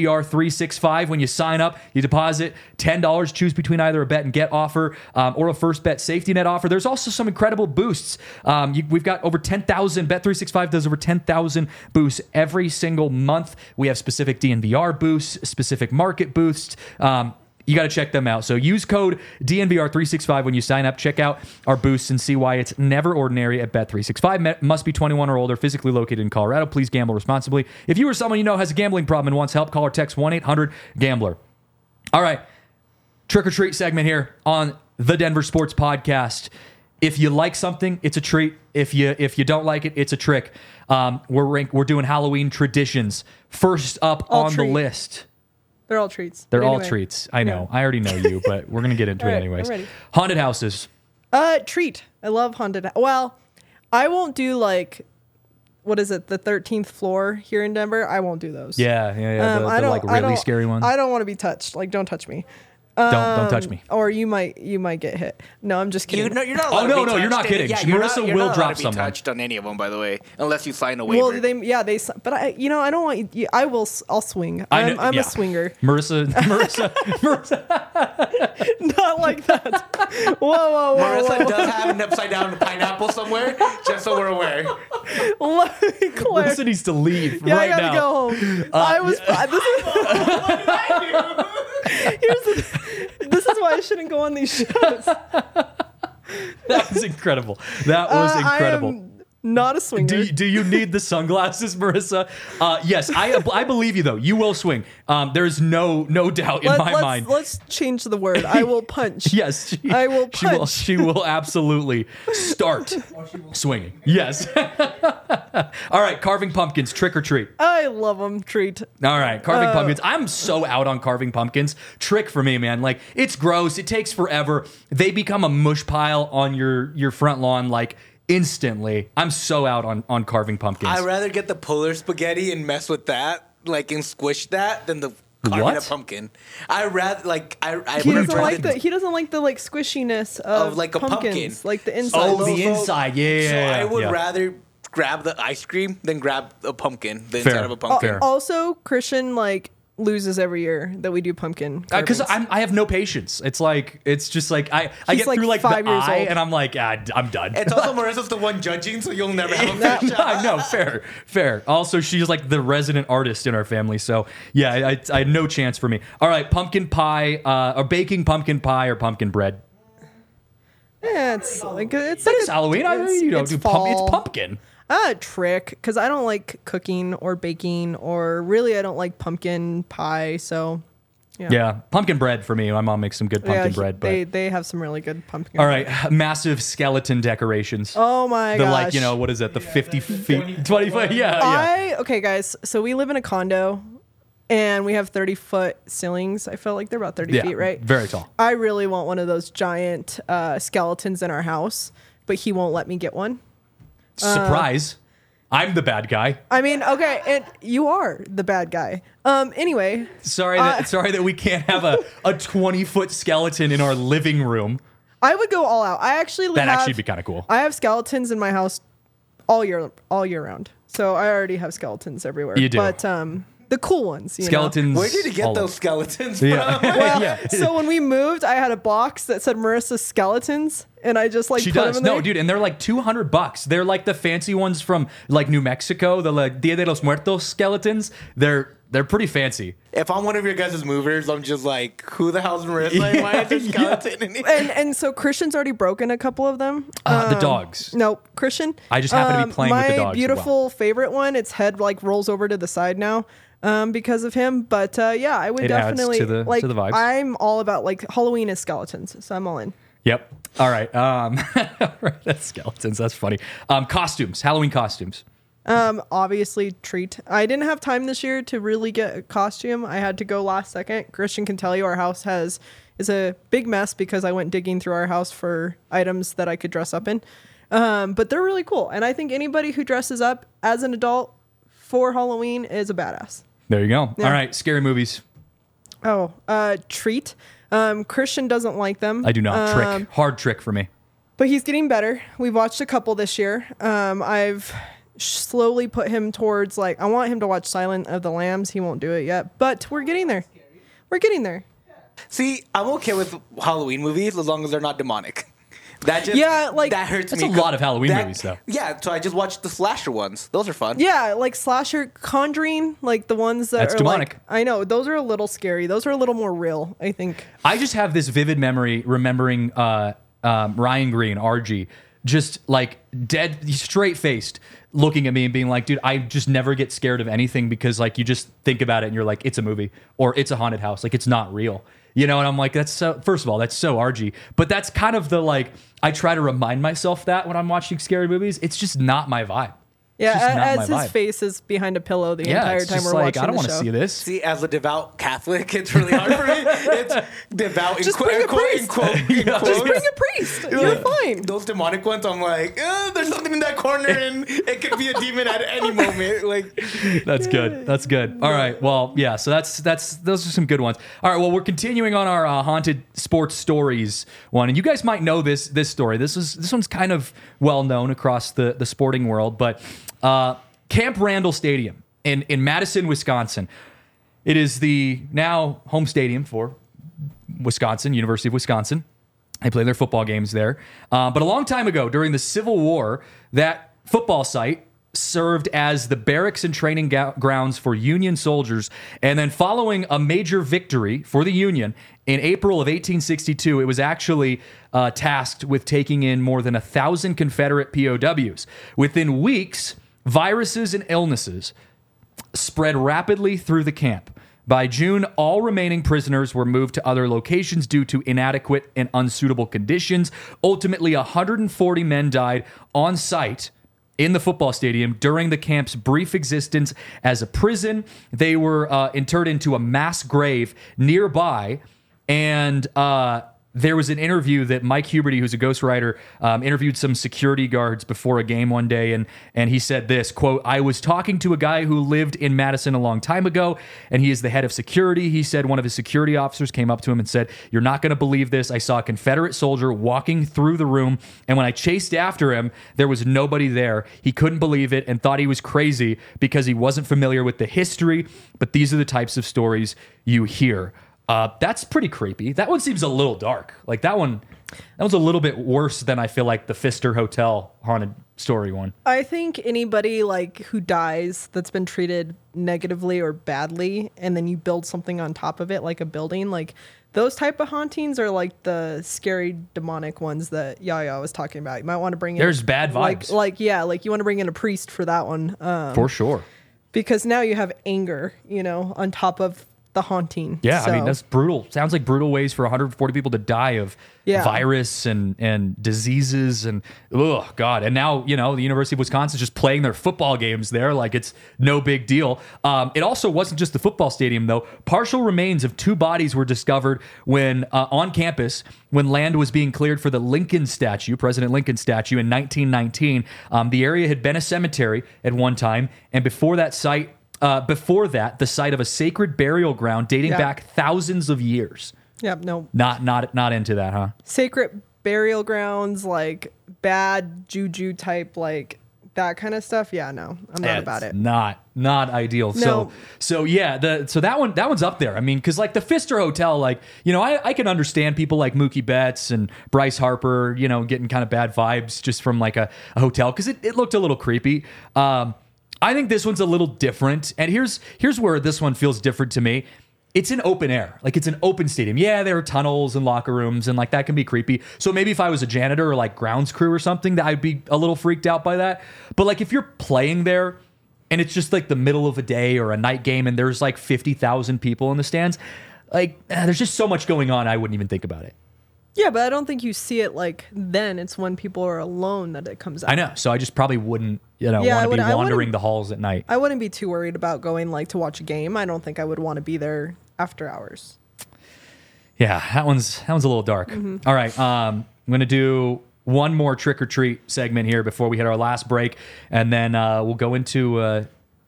DNVR365 when you sign up. You deposit $10, choose between either a bet and get offer or a first bet safety net offer. There's also some incredible boosts. We've got over 10,000. Bet365 does over 10,000 boosts every single month. We have specific DNVR boosts, specific market boosts. You got to check them out. So use code DNVR365 when you sign up. Check out our boosts and see why it's never ordinary at Bet365. Must be 21 or older, physically located in Colorado. Please gamble responsibly. If you or someone you know has a gambling problem and wants help, call or text 1-800-GAMBLER. All right. Trick or treat segment here on the Denver Sports Podcast. If you like something, it's a treat. If you don't like it, it's a trick. We're doing Halloween traditions. First up on the list. They're all treats. They're But all anyway. treats. I know. I already know you, but we're going to get into All it right, anyways. I'm ready. Haunted houses. Treat. I love haunted. Well, I won't do what is it? The 13th floor here in Denver. I won't do those. Yeah. The really scary ones. I don't want to be touched. Don't touch me. Don't touch me. Or you might get hit. No, I'm just kidding. You're not Oh, allowed no, to be no, you're not touched. kidding. Yeah, Marissa you're will not drop allowed to be someone. touched on any of them, by the way, unless you sign a waiver. Well, but I don't want you. I'll swing. I'm a swinger. Marissa. Not like that. Whoa. Marissa does have an upside down pineapple somewhere, just so we're aware. Let me clarify. Marissa needs to leave Yeah, right I gotta now. go home. This is why I shouldn't go on these shows. That was incredible. That was incredible. I am not a swinger. Do you need the sunglasses, Marissa? Yes, I believe you though. You will swing. There's no doubt in my mind. Let's change the word. I will punch. Yes, I will punch. She will absolutely start swinging. Yes. All right, carving pumpkins, trick or treat. I love them. Treat. All right, carving pumpkins. I'm so out on carving pumpkins. Trick for me, man. It's gross. It takes forever. They become a mush pile on your front lawn instantly. I'm so out on carving pumpkins. I'd rather get the polar spaghetti and mess with that, and squish that, than the carving a pumpkin. I rather He doesn't like the squishiness of like a pumpkins, pumpkin. like the inside. Oh, the inside. Yeah. So I would yeah. rather grab the ice cream than grab a pumpkin, the inside of a pumpkin. Fair. Also, Christian loses every year that we do pumpkin. Because carvings. I have no patience. It's just I He's get through the 5 years eye old. and I'm like, I'm done. It's also Marissa's the one judging, so you'll never have a fair shot. No, fair. Also, she's the resident artist in our family, so yeah, I had no chance for me. All right, pumpkin pie, or baking pumpkin pie or pumpkin bread. Yeah, it's That is Halloween. it's fall. It's pumpkin. Trick, because I don't like cooking or baking, or really I don't like pumpkin pie. So Yeah, pumpkin bread for me. My mom makes some good pumpkin bread. But they have some really good pumpkin. all bread. right, massive skeleton decorations. Oh my the gosh. what is it? The 50 feet, 20 foot. Yeah. Okay, guys. So we live in a condo, and we have 30-foot ceilings. I feel like they're about 30 feet, right? Very tall. I really want one of those giant skeletons in our house, but he won't let me get one. Surprise! I'm the bad guy. I mean, okay, and you are the bad guy. Anyway, Sorry that we can't have a 20-foot skeleton in our living room. I would go all out. I actually That'd actually be kind of cool. I have skeletons in my house all year round. So I already have skeletons everywhere. You do. But the cool ones, you know? Skeletons. Where did you get all those over. skeletons from? Yeah. Well, so when we moved, I had a box that said Marissa Skeletons, and I just like She put does. them in there. No, dude, and they're like $200. They're like the fancy ones from like New Mexico, the like Dia de los Muertos skeletons. They're pretty fancy. If I'm one of your guys' movers, I'm just like, who the hell's Marissa? Why is there a skeleton in here? And so Christian's already broken a couple of them. The dogs. No, Christian. I just happen to be playing with the dogs as My well. beautiful favorite one, its head like rolls over to the side now because of him. But yeah, I would It adds definitely to the- like. to the vibes. I'm all about like Halloween is skeletons, so I'm all in. Yep. All right. That's skeletons. That's funny. Costumes. Halloween costumes. Obviously treat. I didn't have time this year to really get a costume. I had to go last second. Christian can tell you our house is a big mess because I went digging through our house for items that I could dress up in. But they're really cool. And I think anybody who dresses up as an adult for Halloween is a badass. There you go. Yeah. All right. Scary movies. Oh, treat. Christian doesn't like them. I do not. Trick. Hard trick for me. But he's getting better. We've watched a couple this year. I've slowly put him towards like I want him to watch Silent of the Lambs. He won't do it yet, but we're getting there. We're getting there. See, I'm okay with Halloween movies as long as they're not demonic. That just that hurts That's me. a lot of Halloween movies, though. Yeah, so I just watched the slasher ones. Those are fun. Yeah, like slasher Conjuring, like the ones that That's are demonic. like I know those are a little scary. Those are a little more real, I think. I just have this vivid memory remembering Ryan Green, RG, just like dead, straight faced, looking at me and being like, dude, I just never get scared of anything because like you just think about it and you're like, it's a movie or it's a haunted house. Like it's not real. You know, and I'm like, that's so, first of all, that's so RG. But that's kind of the like, I try to remind myself that when I'm watching scary movies, it's just not my vibe. It's just not as my his vibe. face is behind a pillow the Yeah, entire it's time just we're like, watching I don't the want to show. see this. See, as a devout Catholic, it's really hard for me. It's devout Just bring a priest. Just bring a priest. You're fine. Those demonic ones, I'm like, there's something in that corner and it could be a demon at any moment. Like, That's good. That's good. All right. Well, yeah. So that's those are some good ones. All right. Well, we're continuing on our haunted sports stories one, and you guys might know this story. This one's kind of well known across the sporting world, but Camp Randall Stadium in Madison, Wisconsin. It is the now home stadium for Wisconsin, University of Wisconsin. They play their football games there. But a long time ago, during the Civil War, that football site served as the barracks and training grounds for Union soldiers. And then following a major victory for the Union in April of 1862, it was actually tasked with taking in more than 1,000 Confederate POWs. Within weeks, viruses and illnesses spread rapidly through the camp. By June, all remaining prisoners were moved to other locations due to inadequate and unsuitable conditions. Ultimately, 140 men died on site in the football stadium during the camp's brief existence as a prison. They were interred into a mass grave nearby, and there was an interview that Mike Huberty, who's a ghostwriter, interviewed some security guards before a game one day, and he said this, quote, "I was talking to a guy who lived in Madison a long time ago, and he is the head of security. He said one of his security officers came up to him and said, 'You're not going to believe this. I saw a Confederate soldier walking through the room, and when I chased after him, there was nobody there. He couldn't believe it and thought he was crazy because he wasn't familiar with the history, but these are the types of stories you hear.'" That's pretty creepy. That one seems a little dark. Like that was a little bit worse than I feel like the Pfister Hotel haunted story one. I think anybody like who dies that's been treated negatively or badly, and then you build something on top of it, like a building, like those type of hauntings are like the scary demonic ones that Yaya was talking about. You might want to bring in There's bad vibes. like you want to bring in a priest for that one. For sure. Because now you have anger, on top of The Haunting. Yeah, I mean, So, that's brutal. Sounds like brutal ways for 140 people to die of Yeah. virus and diseases and, oh, God. And now, the University of Wisconsin's just playing their football games there like it's no big deal. It also wasn't just the football stadium, though. Partial remains of 2 bodies were discovered when on campus when land was being cleared for the Lincoln statue, President Lincoln statue, in 1919. The area had been a cemetery at one time, and before that, the site of a sacred burial ground dating Yeah. back thousands of years. Yep. No. Not into that, huh? Sacred burial grounds, like bad juju type, like that kind of stuff. Yeah. No, I'm not about it. Not ideal. No. So yeah, so that one's up there. I mean, because like the Pfister Hotel, like I can understand people like Mookie Betts and Bryce Harper, getting kind of bad vibes just from like a hotel because it looked a little creepy. I think this one's a little different, and here's where this one feels different to me. It's an open air, like it's an open stadium. Yeah, there are tunnels and locker rooms, and like that can be creepy. So maybe if I was a janitor or like grounds crew or something, that I'd be a little freaked out by that. But like if you're playing there, and it's just like the middle of a day or a night game, and there's like 50,000 people in the stands, like there's just so much going on. I wouldn't even think about it. Yeah, but I don't think you see it like then. It's when people are alone that it comes out. I know. So I just probably wouldn't, Yeah, I want to be wouldn't- wandering the halls at night. I wouldn't be too worried about going like to watch a game. I don't think I would want to be there after hours. Yeah, that one's a little dark. All right, I'm going to do one more trick or treat segment here before we hit our last break, and then we'll go into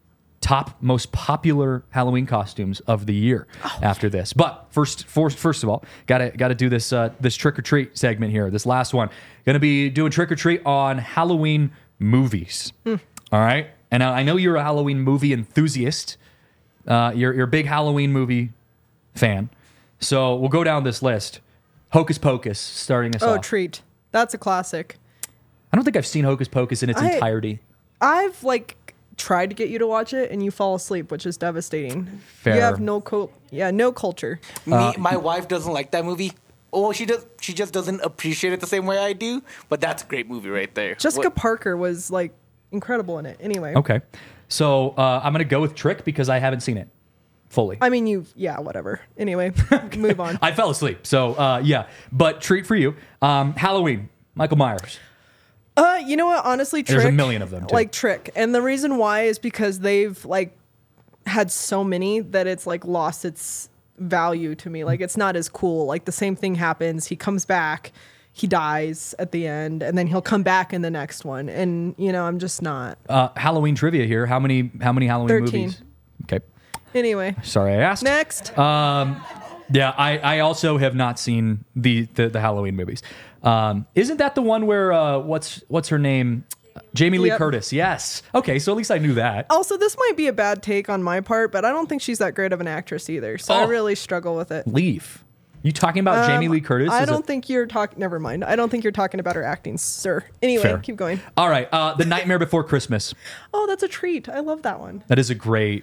top most popular Halloween costumes of the year after this. But first of all, gotta do this this trick or treat segment here. This last one, going to be doing trick or treat on Halloween movies. All right, and I know you're a Halloween movie enthusiast. You're a big Halloween movie fan. So we'll go down this list. Hocus Pocus, starting us Oh, off. treat. That's a classic. I don't think I've seen Hocus Pocus in its I- entirety. I've like tried to get you to watch it and you fall asleep, which is devastating. Fair. You have no no culture. My wife doesn't like that movie. Oh, she does. She just doesn't appreciate it the same way I do. But that's a great movie right there. Jessica What- Parker was like incredible in it. Anyway. Okay. So I'm going to go with Trick because I haven't seen it fully. I mean, whatever. Anyway, move on. I fell asleep. So, yeah. But treat for you. Halloween, Michael Myers. You know what? Honestly, Trick. There's a million of them, too. Like Trick, and the reason why is because they've like had so many that it's like lost its value to me. Like it's not as cool. Like the same thing happens. He comes back, he dies at the end, and then he'll come back in the next one. And I'm just not. Halloween trivia here. How many Halloween 13. movies? Okay. Anyway, Sorry I asked. next. Yeah, I also have not seen the Halloween movies. Isn't that the one where what's her name? Jamie Lee Yep. Curtis. Yes. Okay, so at least I knew that. Also, this might be a bad take on my part, but I don't think she's that great of an actress either. So I Oh. really struggle with it. Leave. You talking about Jamie Lee Curtis? I Is don't it- think you're talking. Never mind. I don't think you're talking about her acting, sir. Anyway, Fair. keep going. All right, The Nightmare Before Christmas. Oh, that's a treat. I love that one. That is a great.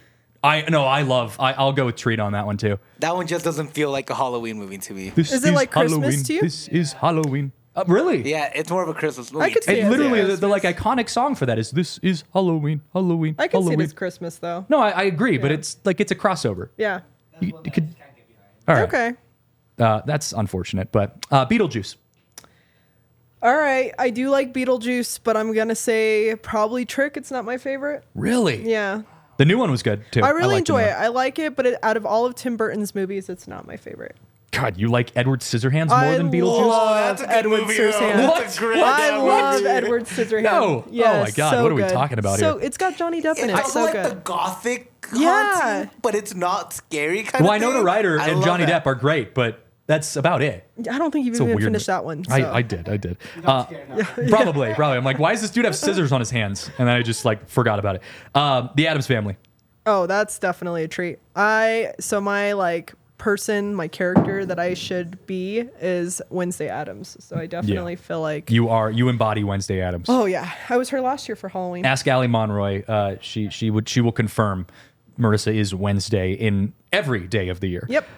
I'll go with treat on that one too. That one just doesn't feel like a Halloween movie to me. This Is it like Christmas Halloween. to you? This is Halloween. Really? Yeah, it's more of a Christmas movie. I could to see me. it. And literally, Yeah. the like iconic song for that is "This is Halloween, Halloween, I can see Halloween." it as Christmas though. No, I agree, but Yeah. it's like it's a crossover. Yeah. You could. All right. Okay. That's unfortunate, but Beetlejuice. All right. I do like Beetlejuice, but I'm gonna say probably Trick. It's not my favorite. Really? Yeah. The new one was good too. I really liked the enjoy new it. one. I like it, but out of all of Tim Burton's movies, it's not my favorite. God, you like Edward Scissorhands more I than Beetlejuice? love that's a good Edward movie, though. Scissorhands. That's a great I damn love movie. Edward Scissorhands. No. Oh Yes, my God, so what are we good. talking about So here? it's got Johnny Depp in It's it. also So like good. the gothic Yeah. haunting, but it's not scary kind Well, of thing. Winona Ryder I and love Johnny that. Depp are great, but that's about it. I don't think you've It's a even weird finished movie. that one. So. I did. Probably. I'm like, why does this dude have scissors on his hands? And then I just like forgot about it. The Addams Family. Oh, that's definitely a treat. So my like person, my character that I should be is Wednesday Addams. So I definitely feel like You embody Wednesday Addams. oh yeah, I was her last year for Halloween. Ask Allie Monroy. She will confirm Marissa is Wednesday in every day of the year. Yep.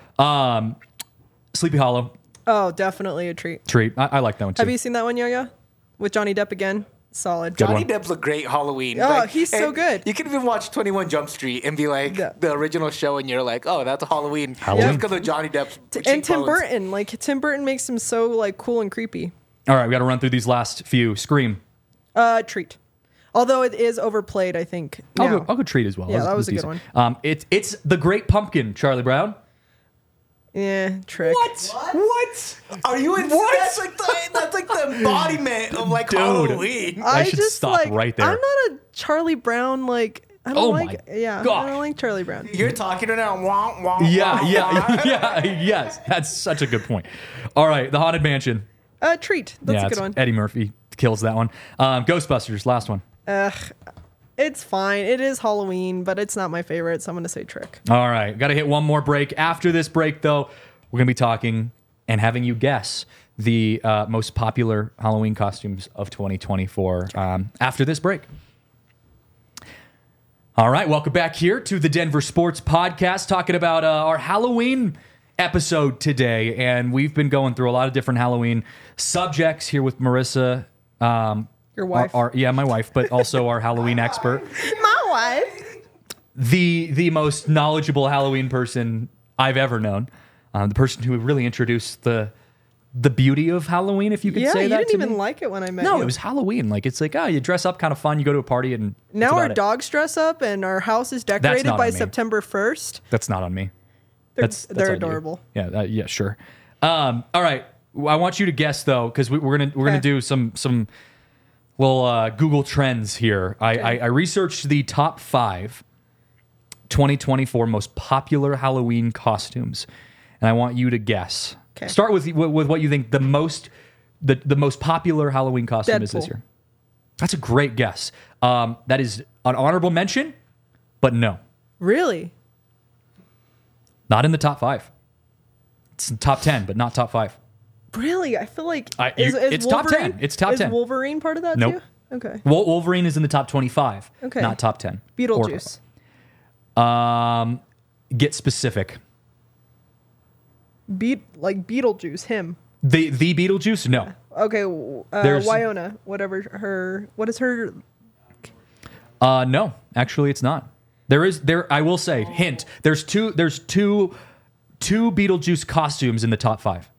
Sleepy Hollow Oh, definitely a treat. treat. I like that one too. Have you seen that one, Yo-Yo? With Johnny Depp again? solid. Good Johnny one. Depp's a great Halloween. Oh, he's so and good. You can even watch 21 Jump Street and be like Yeah. the original show, and you're like, oh, that's a Halloween. Halloween. Just because of Johnny Depp's And Tim cheekbones. Burton, like Tim Burton makes him so like cool and creepy. All right, we got to run through these last few. Scream. Treat. Although it is overplayed, I think. I'll now. go treat as well. Yeah, that was a good decent. It's the Great Pumpkin, Charlie Brown. Yeah, trick. What? Are you in? That's like the embodiment of like Dude. Halloween. I should stop right there. I'm not a Charlie Brown like. I don't Oh like. my Yeah, gosh. I don't like Charlie Brown. You're talking right now. Wah, wah, Yeah, wah, yeah, wah. yeah, yes. That's such a good point. All right, the Haunted Mansion. Treat. That's a good it's one. Eddie Murphy kills that one. Ghostbusters, last one. It's fine. It is Halloween, but it's not my favorite, so I'm gonna say trick. All right, got to hit one more break. After this break, though, we're going to be talking and having you guess the most popular Halloween costumes of 2024 after this break. All right, welcome back here to the Denver Sports Podcast, talking about our Halloween episode today. And we've been going through a lot of different Halloween subjects here with Marissa. Your wife. My wife, but also our Halloween expert. My wife. The most knowledgeable Halloween person I've ever known. The person who really introduced the beauty of Halloween, if you could Yeah, say you that didn't to even me. like it when I met No, you. it was Halloween. Like, it's like, you dress up, kind of fun. You go to a party, and Now that's our about it. dogs dress up and our house is decorated not by on me. September 1st. That's not on me. That's They're on you. adorable. Yeah, yeah, sure. All right, I want you to guess though, because we're gonna Okay. do some little Google Trends here. I researched the top 5 2024 most popular Halloween costumes, and I want you to guess. Okay. Start with what you think the most popular Halloween costume is this Deadpool. year. That's a great guess. That is an honorable mention, but no, Really? not in the top 5. It's in top 10, but not top 5. Really? I feel like it's top 10. Wolverine- It's top 10. Is Wolverine part of that Nope. too? Okay. Wolverine is in the top 25, Okay. not top 10. Beetlejuice. Get specific. Beetlejuice, him. The Beetlejuice? No. Okay, There's- Wyona, what is her? No, actually it's not. I will say, hint, there's two Beetlejuice costumes in the top 5.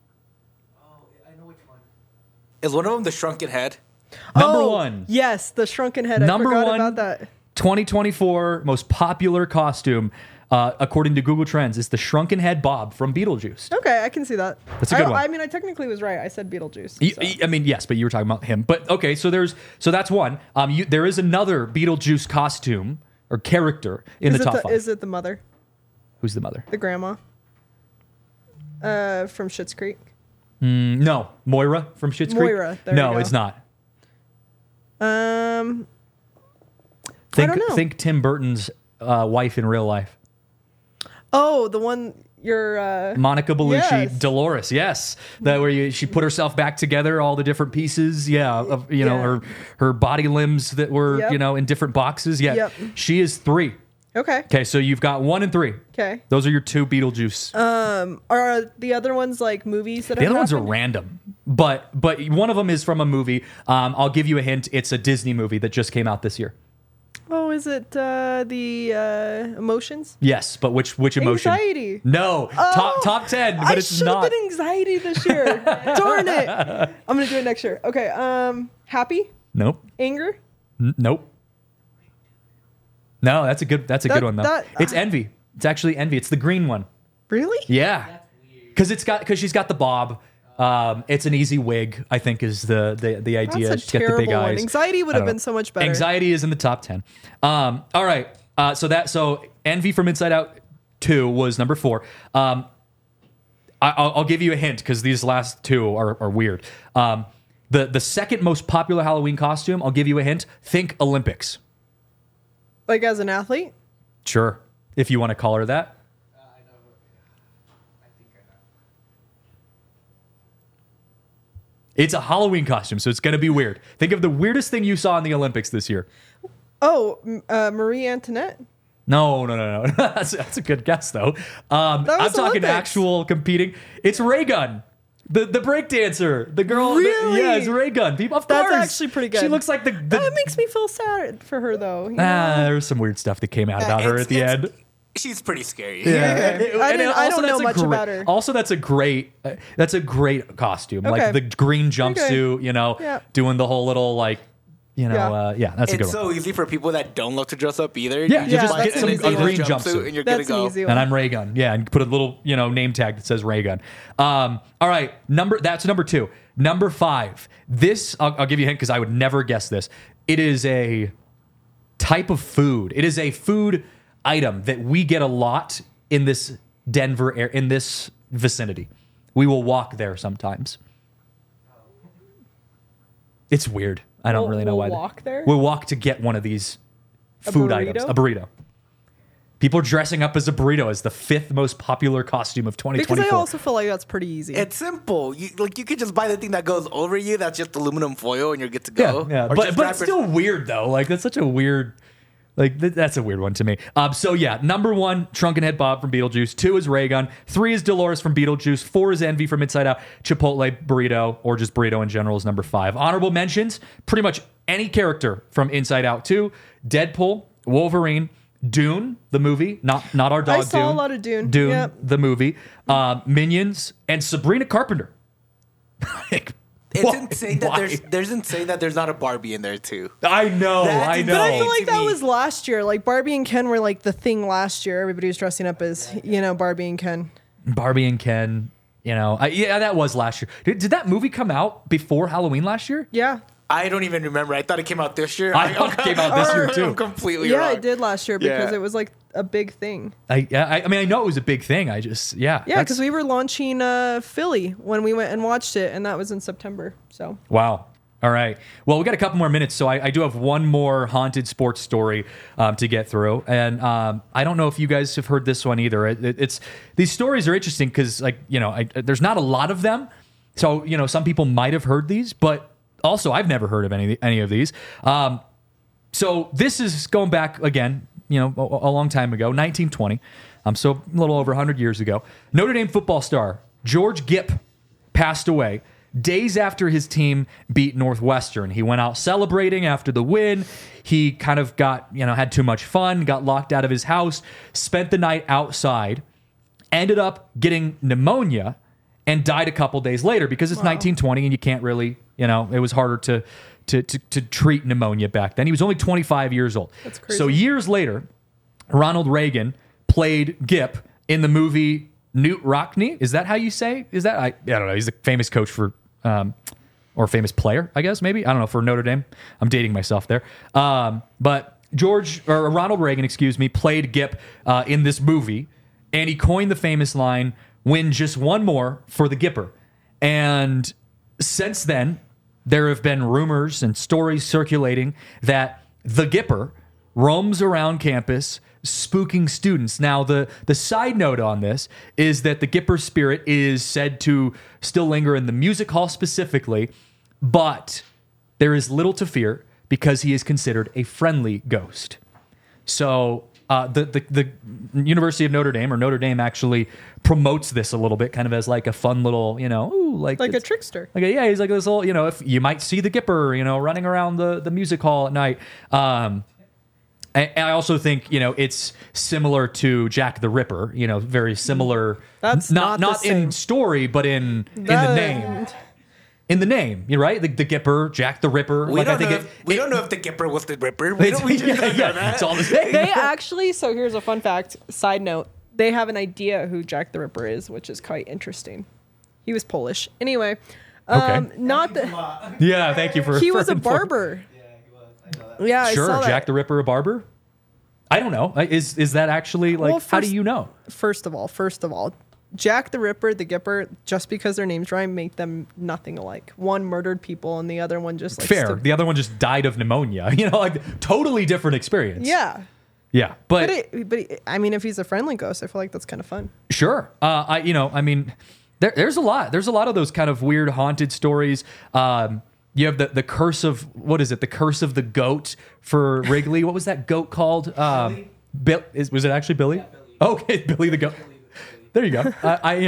Is one of them the shrunken head? Number 1. Yes, the shrunken head. Number I forgot 1 about that. 2024 most popular costume according to Google Trends is the shrunken head Bob from Beetlejuice. Okay, I can see that. That's a good one. I mean, I technically was right. I said Beetlejuice. so. I mean, yes, but you were talking about him. But okay, so that's one. There is another Beetlejuice costume or character in the top 5. Is it the mother, Who's the mother? the grandma? From Schitt's Creek. No, Moira from Schitt's Creek. Moira, there no, you go. it's not. I Think don't know. think Tim Burton's wife in real life, Oh, the one you're. Monica Bellucci, Yes. Dolores. Yes, that where she put herself back together, all the different pieces. Yeah, of Yeah. her body limbs that were Yep. in different boxes. Yeah, Yep. she is 3. Okay. Okay, so you've got 1 and 3. Okay. Those are your 2 Beetlejuice. Are the other ones like movies that The have other ones are happened? random, but one of them is from a movie. I'll give you a hint. It's a Disney movie that just came out this year. Oh, is it the Emotions? Yes, but which emotion? Anxiety. No, top 10, but I it's should have not. been anxiety this year. Darn it! I'm gonna do it next year. Okay. Happy, Nope. anger. Nope. No, that's a good one though. It's Envy. It's actually Envy. It's the green one. Really? Yeah, because she's got the bob. It's an easy wig, I think, is the idea. That's a She's got the big terrible one. eyes. Anxiety would I have don't been know. so much better. Anxiety is in the top 10. All right. So Envy from Inside Out 2 was number 4. I'll give you a hint because these last 2 are weird. The second most popular Halloween costume, I'll give you a hint. Think Olympics. Like as an athlete? Sure, if you want to call her that. It's a Halloween costume, so it's going to be weird. Think of the weirdest thing you saw in the Olympics this year. Oh, Marie Antoinette. No. that's a good guess, though. I'm was talking Olympics. actual competing. It's Ray Gun. The break dancer, the girl, Really? yeah, it's Ray Gun. People, of That's course, actually pretty good. She looks like the That makes me feel sad for her, though. you know? there was some weird stuff that came out about her at the end. She's pretty scary. Okay. I don't know much great, about her. Also, that's a great costume. Like Okay. the green jumpsuit, Yeah. doing the whole little like, that's a good It's one. so easy for people that don't love to dress up either. Yeah, you just buy get an some easy a green little jumpsuit. and you're That's good to an go. easy one. And I'm Ray Gun. Yeah, and put a little, name tag that says Ray Gun. All right, that's number 2. Number 5. This I'll give you a hint because I would never guess this. It is a type of food. It is a food item that we get a lot in this Denver area, in this vicinity. We will walk there sometimes. It's weird. I don't really know why. We'll walk there? We'll walk to get one of these food items. burrito? A burrito. People are dressing up as a burrito as the 5th most popular costume of Because 2024. I also feel like that's pretty easy. It's simple. You could just buy the thing that goes over you. That's just aluminum foil, and you're good to yeah, go. yeah. Or But just but wrap it's your- still weird though. Like that's such a weird. Like that's a weird one to me. So yeah, number 1, Drunken Head Bob from Beetlejuice. 2 is Ray Gun. 3 is Dolores from Beetlejuice. 4 is Envy from Inside Out. Chipotle burrito or just burrito in general is number 5. Honorable mentions: pretty much any character from Inside Out 2, Deadpool, Wolverine, Dune the movie, not our dog. I saw Dune. a lot of Dune. Dune Yep. the movie, Minions, and Sabrina Carpenter. Like, It's why- insane that why? there's insane that there's not a Barbie in there too. I know, That's I insane. know. But I feel like to that me. was last year. Like Barbie and Ken were like the thing last year. Everybody was dressing up as, Barbie and Ken. Barbie and Ken, yeah, that was last year. Did that movie come out before Halloween last year? Yeah. I don't even remember. I thought it came out this year. I thought it came out this year, too. I'm completely Yeah, wrong. it did last year because Yeah. it was like a big thing. I mean, I know it was a big thing. I just, Yeah, that's- because we were launching Philly when we went and watched it, and that was in September. So Wow. All right. Well, we got a couple more minutes, so I do have one more haunted sports story to get through, and I don't know if you guys have heard this one either. It's these stories are interesting because, there's not a lot of them, so some people might have heard these, but also I've never heard of any of these. So this is going back again, a long time ago, 1920. So a little over 100 years ago. Notre Dame football star George Gipp passed away days after his team beat Northwestern. He went out celebrating after the win. He kind of got, had too much fun, got locked out of his house, spent the night outside, ended up getting pneumonia, and died a couple days later because it's 1920 and you can't really, it was harder to treat pneumonia back then. He was only 25 years old. That's crazy. So years later, Ronald Reagan played Gipp in the movie Newt Rockne. Is that how you say? Is that I don't know. He's a famous coach for or famous player, I guess maybe. I don't know, for Notre Dame. I'm dating myself there. But Ronald Reagan, played Gipp in this movie, and he coined the famous line, "Win just one more for the Gipper." And since then, there have been rumors and stories circulating that the Gipper roams around campus spooking students. Now, the side note on this is that the Gipper spirit is said to still linger in the music hall specifically, but there is little to fear because he is considered a friendly ghost. So the University of Notre Dame, or Notre Dame, actually promotes this a little bit, kind of as like a fun little, like a it's- trickster. yeah, he's like this little, if you might see the Gipper, running around the music hall at night. And I also think, it's similar to Jack the Ripper, very similar. That's not the in same. story, but in the name. In the name, you're right. The Gipper, Jack the Ripper. We don't know if the Gipper was the Ripper. We just don't know that. It's all the same. They actually, so here's a fun fact, side note, they have an idea who Jack the Ripper is, which is quite interesting. He was Polish. Anyway, Okay. not the, Yeah, thank you for. he for was a informing- barber. Yeah, I Sure, saw that. Jack the Ripper, a barber. I don't know. Is that actually like? Well, how do first- you know? First of all, Jack the Ripper, the Gipper, just because their names rhyme, make them nothing alike. One murdered people, and the other one just like Fair. The other one just died of pneumonia. Like totally different experience. yeah. Yeah, but I mean, if he's a friendly ghost, I feel like that's kind of fun. sure. There's a lot. There's a lot of those kind of weird haunted stories. You have the curse of, what is it? The curse of the goat for Wrigley. What was that goat called? Was it actually Billy? Yeah, Billy. Okay, Billy the goat. There you go.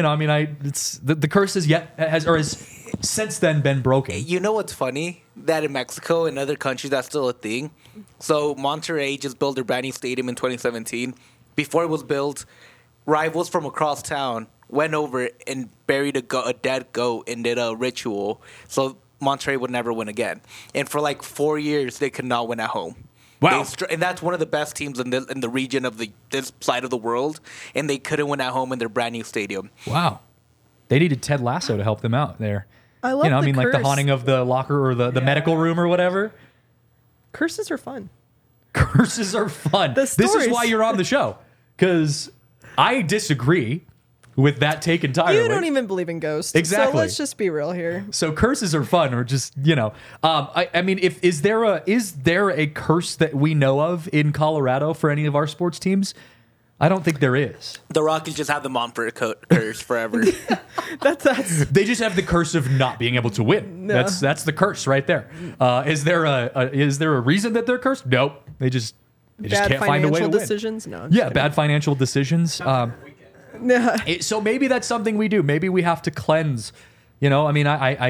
It's the curse has since then been broken. You know what's funny? That in Mexico and other countries, that's still a thing. So Monterrey just built their brand new stadium in 2017. Before it was built, rivals from across town went over and buried a dead goat and did a ritual. So Monterrey would never win again. And for like 4 years, they could not win at home. Wow. And that's one of the best teams in the region of this side of the world, and they couldn't win at home in their brand new stadium. Wow. They needed Ted Lasso to help them out there. I love the like the curse. haunting of the locker or the medical room or whatever. Curses are fun. Curses are fun. The This is stories. why you're on the show. Because I disagree with that take entirely. You don't even believe in ghosts. Exactly. So let's just be real here. So curses are fun, or just I mean, is there a curse that we know of in Colorado for any of our sports teams? I don't think there is. The Rockies just have the Montfort curse forever. That's They just have the curse of not being able to win. No. That's the curse right there. Is there a reason that they're cursed? Nope. They just bad can't find a way to financial win. decisions. No. I'm just Yeah, kidding. bad financial decisions. Yeah. So maybe that's something we do. Maybe we have to cleanse. I mean,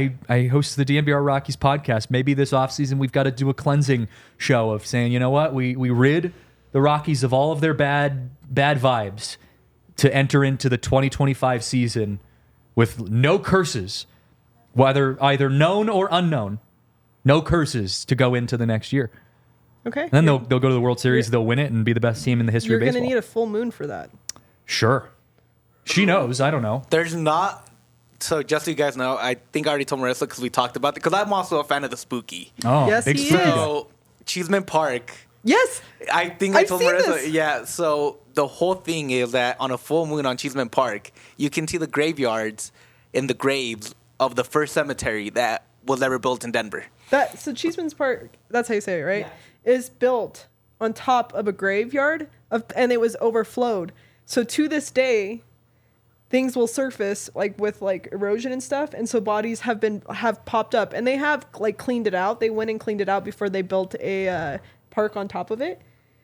I host the DNVR Rockies podcast. Maybe this offseason we've got to do a cleansing show of saying, you know what, we rid the Rockies of all of their bad vibes to enter into the 2025 season with no curses, whether either known or unknown, no curses to go into the next year. Okay. And then they'll go to the World Series, they'll win it, and be the best team in the history You're of going baseball. to need a full moon for that. Sure. She knows. I don't know. There's not. So just so you guys know, I think I already told Marissa because we talked about it. Because I'm also a fan of the spooky. Oh, Yes, big he spooky is. guy. So Cheeseman Park. Yes. I think I I've told seen Marissa. this. Yeah. So the whole thing is that on a full moon on Cheeseman Park, you can see the graveyards and the graves of the first cemetery that was ever built in Denver. So Cheeseman's Park, that's how you say it, right? Is built on top of a graveyard and it was overflowed. So to this day, things will surface like with like erosion and stuff, and so bodies have popped up, and they have like cleaned it out. They went and cleaned it out before they built a park on top of it.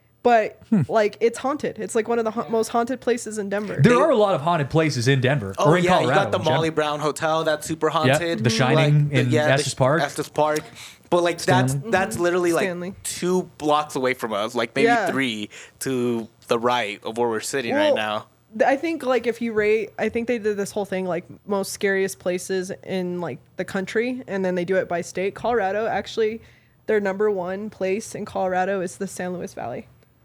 But like it's haunted. It's like one of the most haunted places in Denver. There are a lot of haunted places in Denver Oh or in yeah, Colorado. you got the in general. Molly Brown Hotel that's super haunted. The Shining in Estes Park. Estes Park. But like Stanley. that's literally like Stanley. 2 blocks away from us, like maybe Yeah. 3 to the right of where we're sitting right now. I think like if you rate, I think they did this whole thing like most scariest places in like the country, and then they do it by state. Colorado, actually, their number 1 place in Colorado is the San Luis Valley.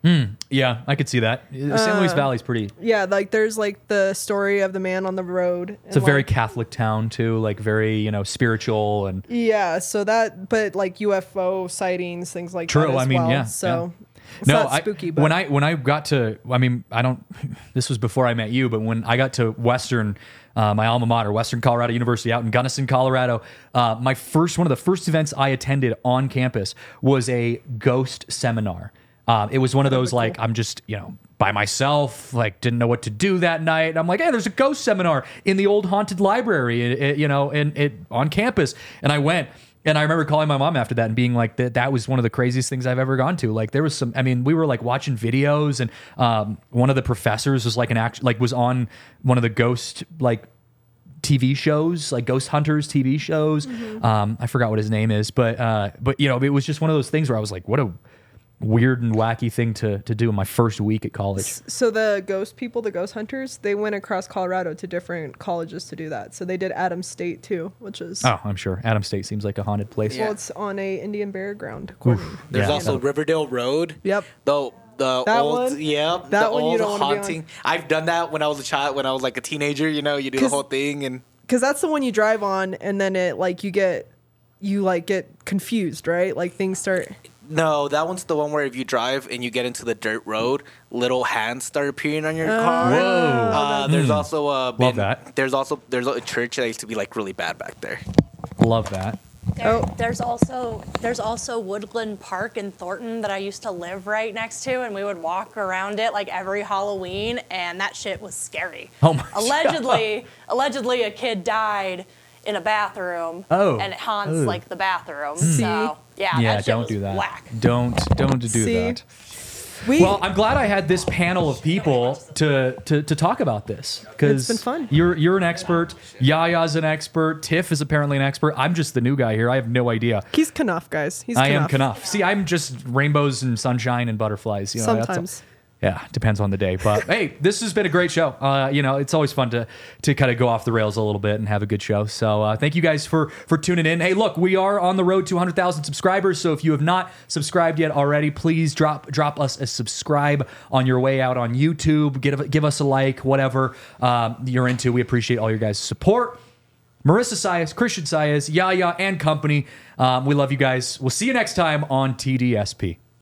Yeah, I could see that. San Luis Valley's pretty. Yeah, like there's like the story of the man on the road. It's a very Catholic town too, like very spiritual and. Yeah, so that, but like UFO sightings, things like True, that as I mean, well. yeah, So yeah. it's not spooky, but when I got to, I mean, I don't. This was before I met you, but when I got to Western, my alma mater, Western Colorado University, out in Gunnison, Colorado, one of the first events I attended on campus was a ghost seminar. It was one of those like I'm just by myself, like didn't know what to do that night. And I'm like, hey, there's a ghost seminar in the old haunted library, on campus, and I went. And I remember calling my mom after that and being like, that was one of the craziest things I've ever gone to. Like there was we were like watching videos, and one of the professors was like was on one of the ghost like TV shows, like Ghost Hunters TV shows. I forgot what his name is, but it was just one of those things where I was like, what a weird and wacky thing to do in my first week at college. So the ghost people, the ghost hunters, they went across Colorado to different colleges to do that. So they did Adams State too, which is Oh, I'm sure Adams State seems like a haunted place. well, it's on a Indian burial ground. according- There's Yeah. also Riverdale Road. Yep. The That old one? Yep. That the one you old don't wanna be on. haunting. I've done that when I was a child, when I was like a teenager. You do the 'Cause- whole thing and. Because that's the one you drive on, and then it like you get confused, right? Like things start. No, that one's the one where if you drive and you get into the dirt road, little hands start appearing on your car. Whoa. There's also Love that. There's a church that used to be like really bad back there. Love that. There's also Woodland Park in Thornton that I used to live right next to, and we would walk around it like every Halloween, and that shit was scary. Oh my Allegedly, a kid died in a bathroom, Oh. and it haunts Ugh. like the bathroom. See? So yeah, Yeah, that shit don't was do that. whack. Don't do See? that. Well, I'm glad I had this panel of people to talk about this, because It's been fun. You're an expert. Yaya's an expert. Tiff is apparently an expert. I'm just the new guy here. I have no idea. He's Knuff, guys. I am Knuff. See, I'm just rainbows and sunshine and butterflies. You know, Sometimes. Yeah, depends on the day. But hey, this has been a great show. It's always fun to kind of go off the rails a little bit and have a good show. So thank you guys for tuning in. Hey, look, we are on the road to 100,000 subscribers. So if you have not subscribed yet already, please drop us a subscribe on your way out on YouTube. Give us a like, whatever you're into. We appreciate all your guys' support. Marissa Sias, Christian Sias, Yaya, and company. We love you guys. We'll see you next time on TDSP.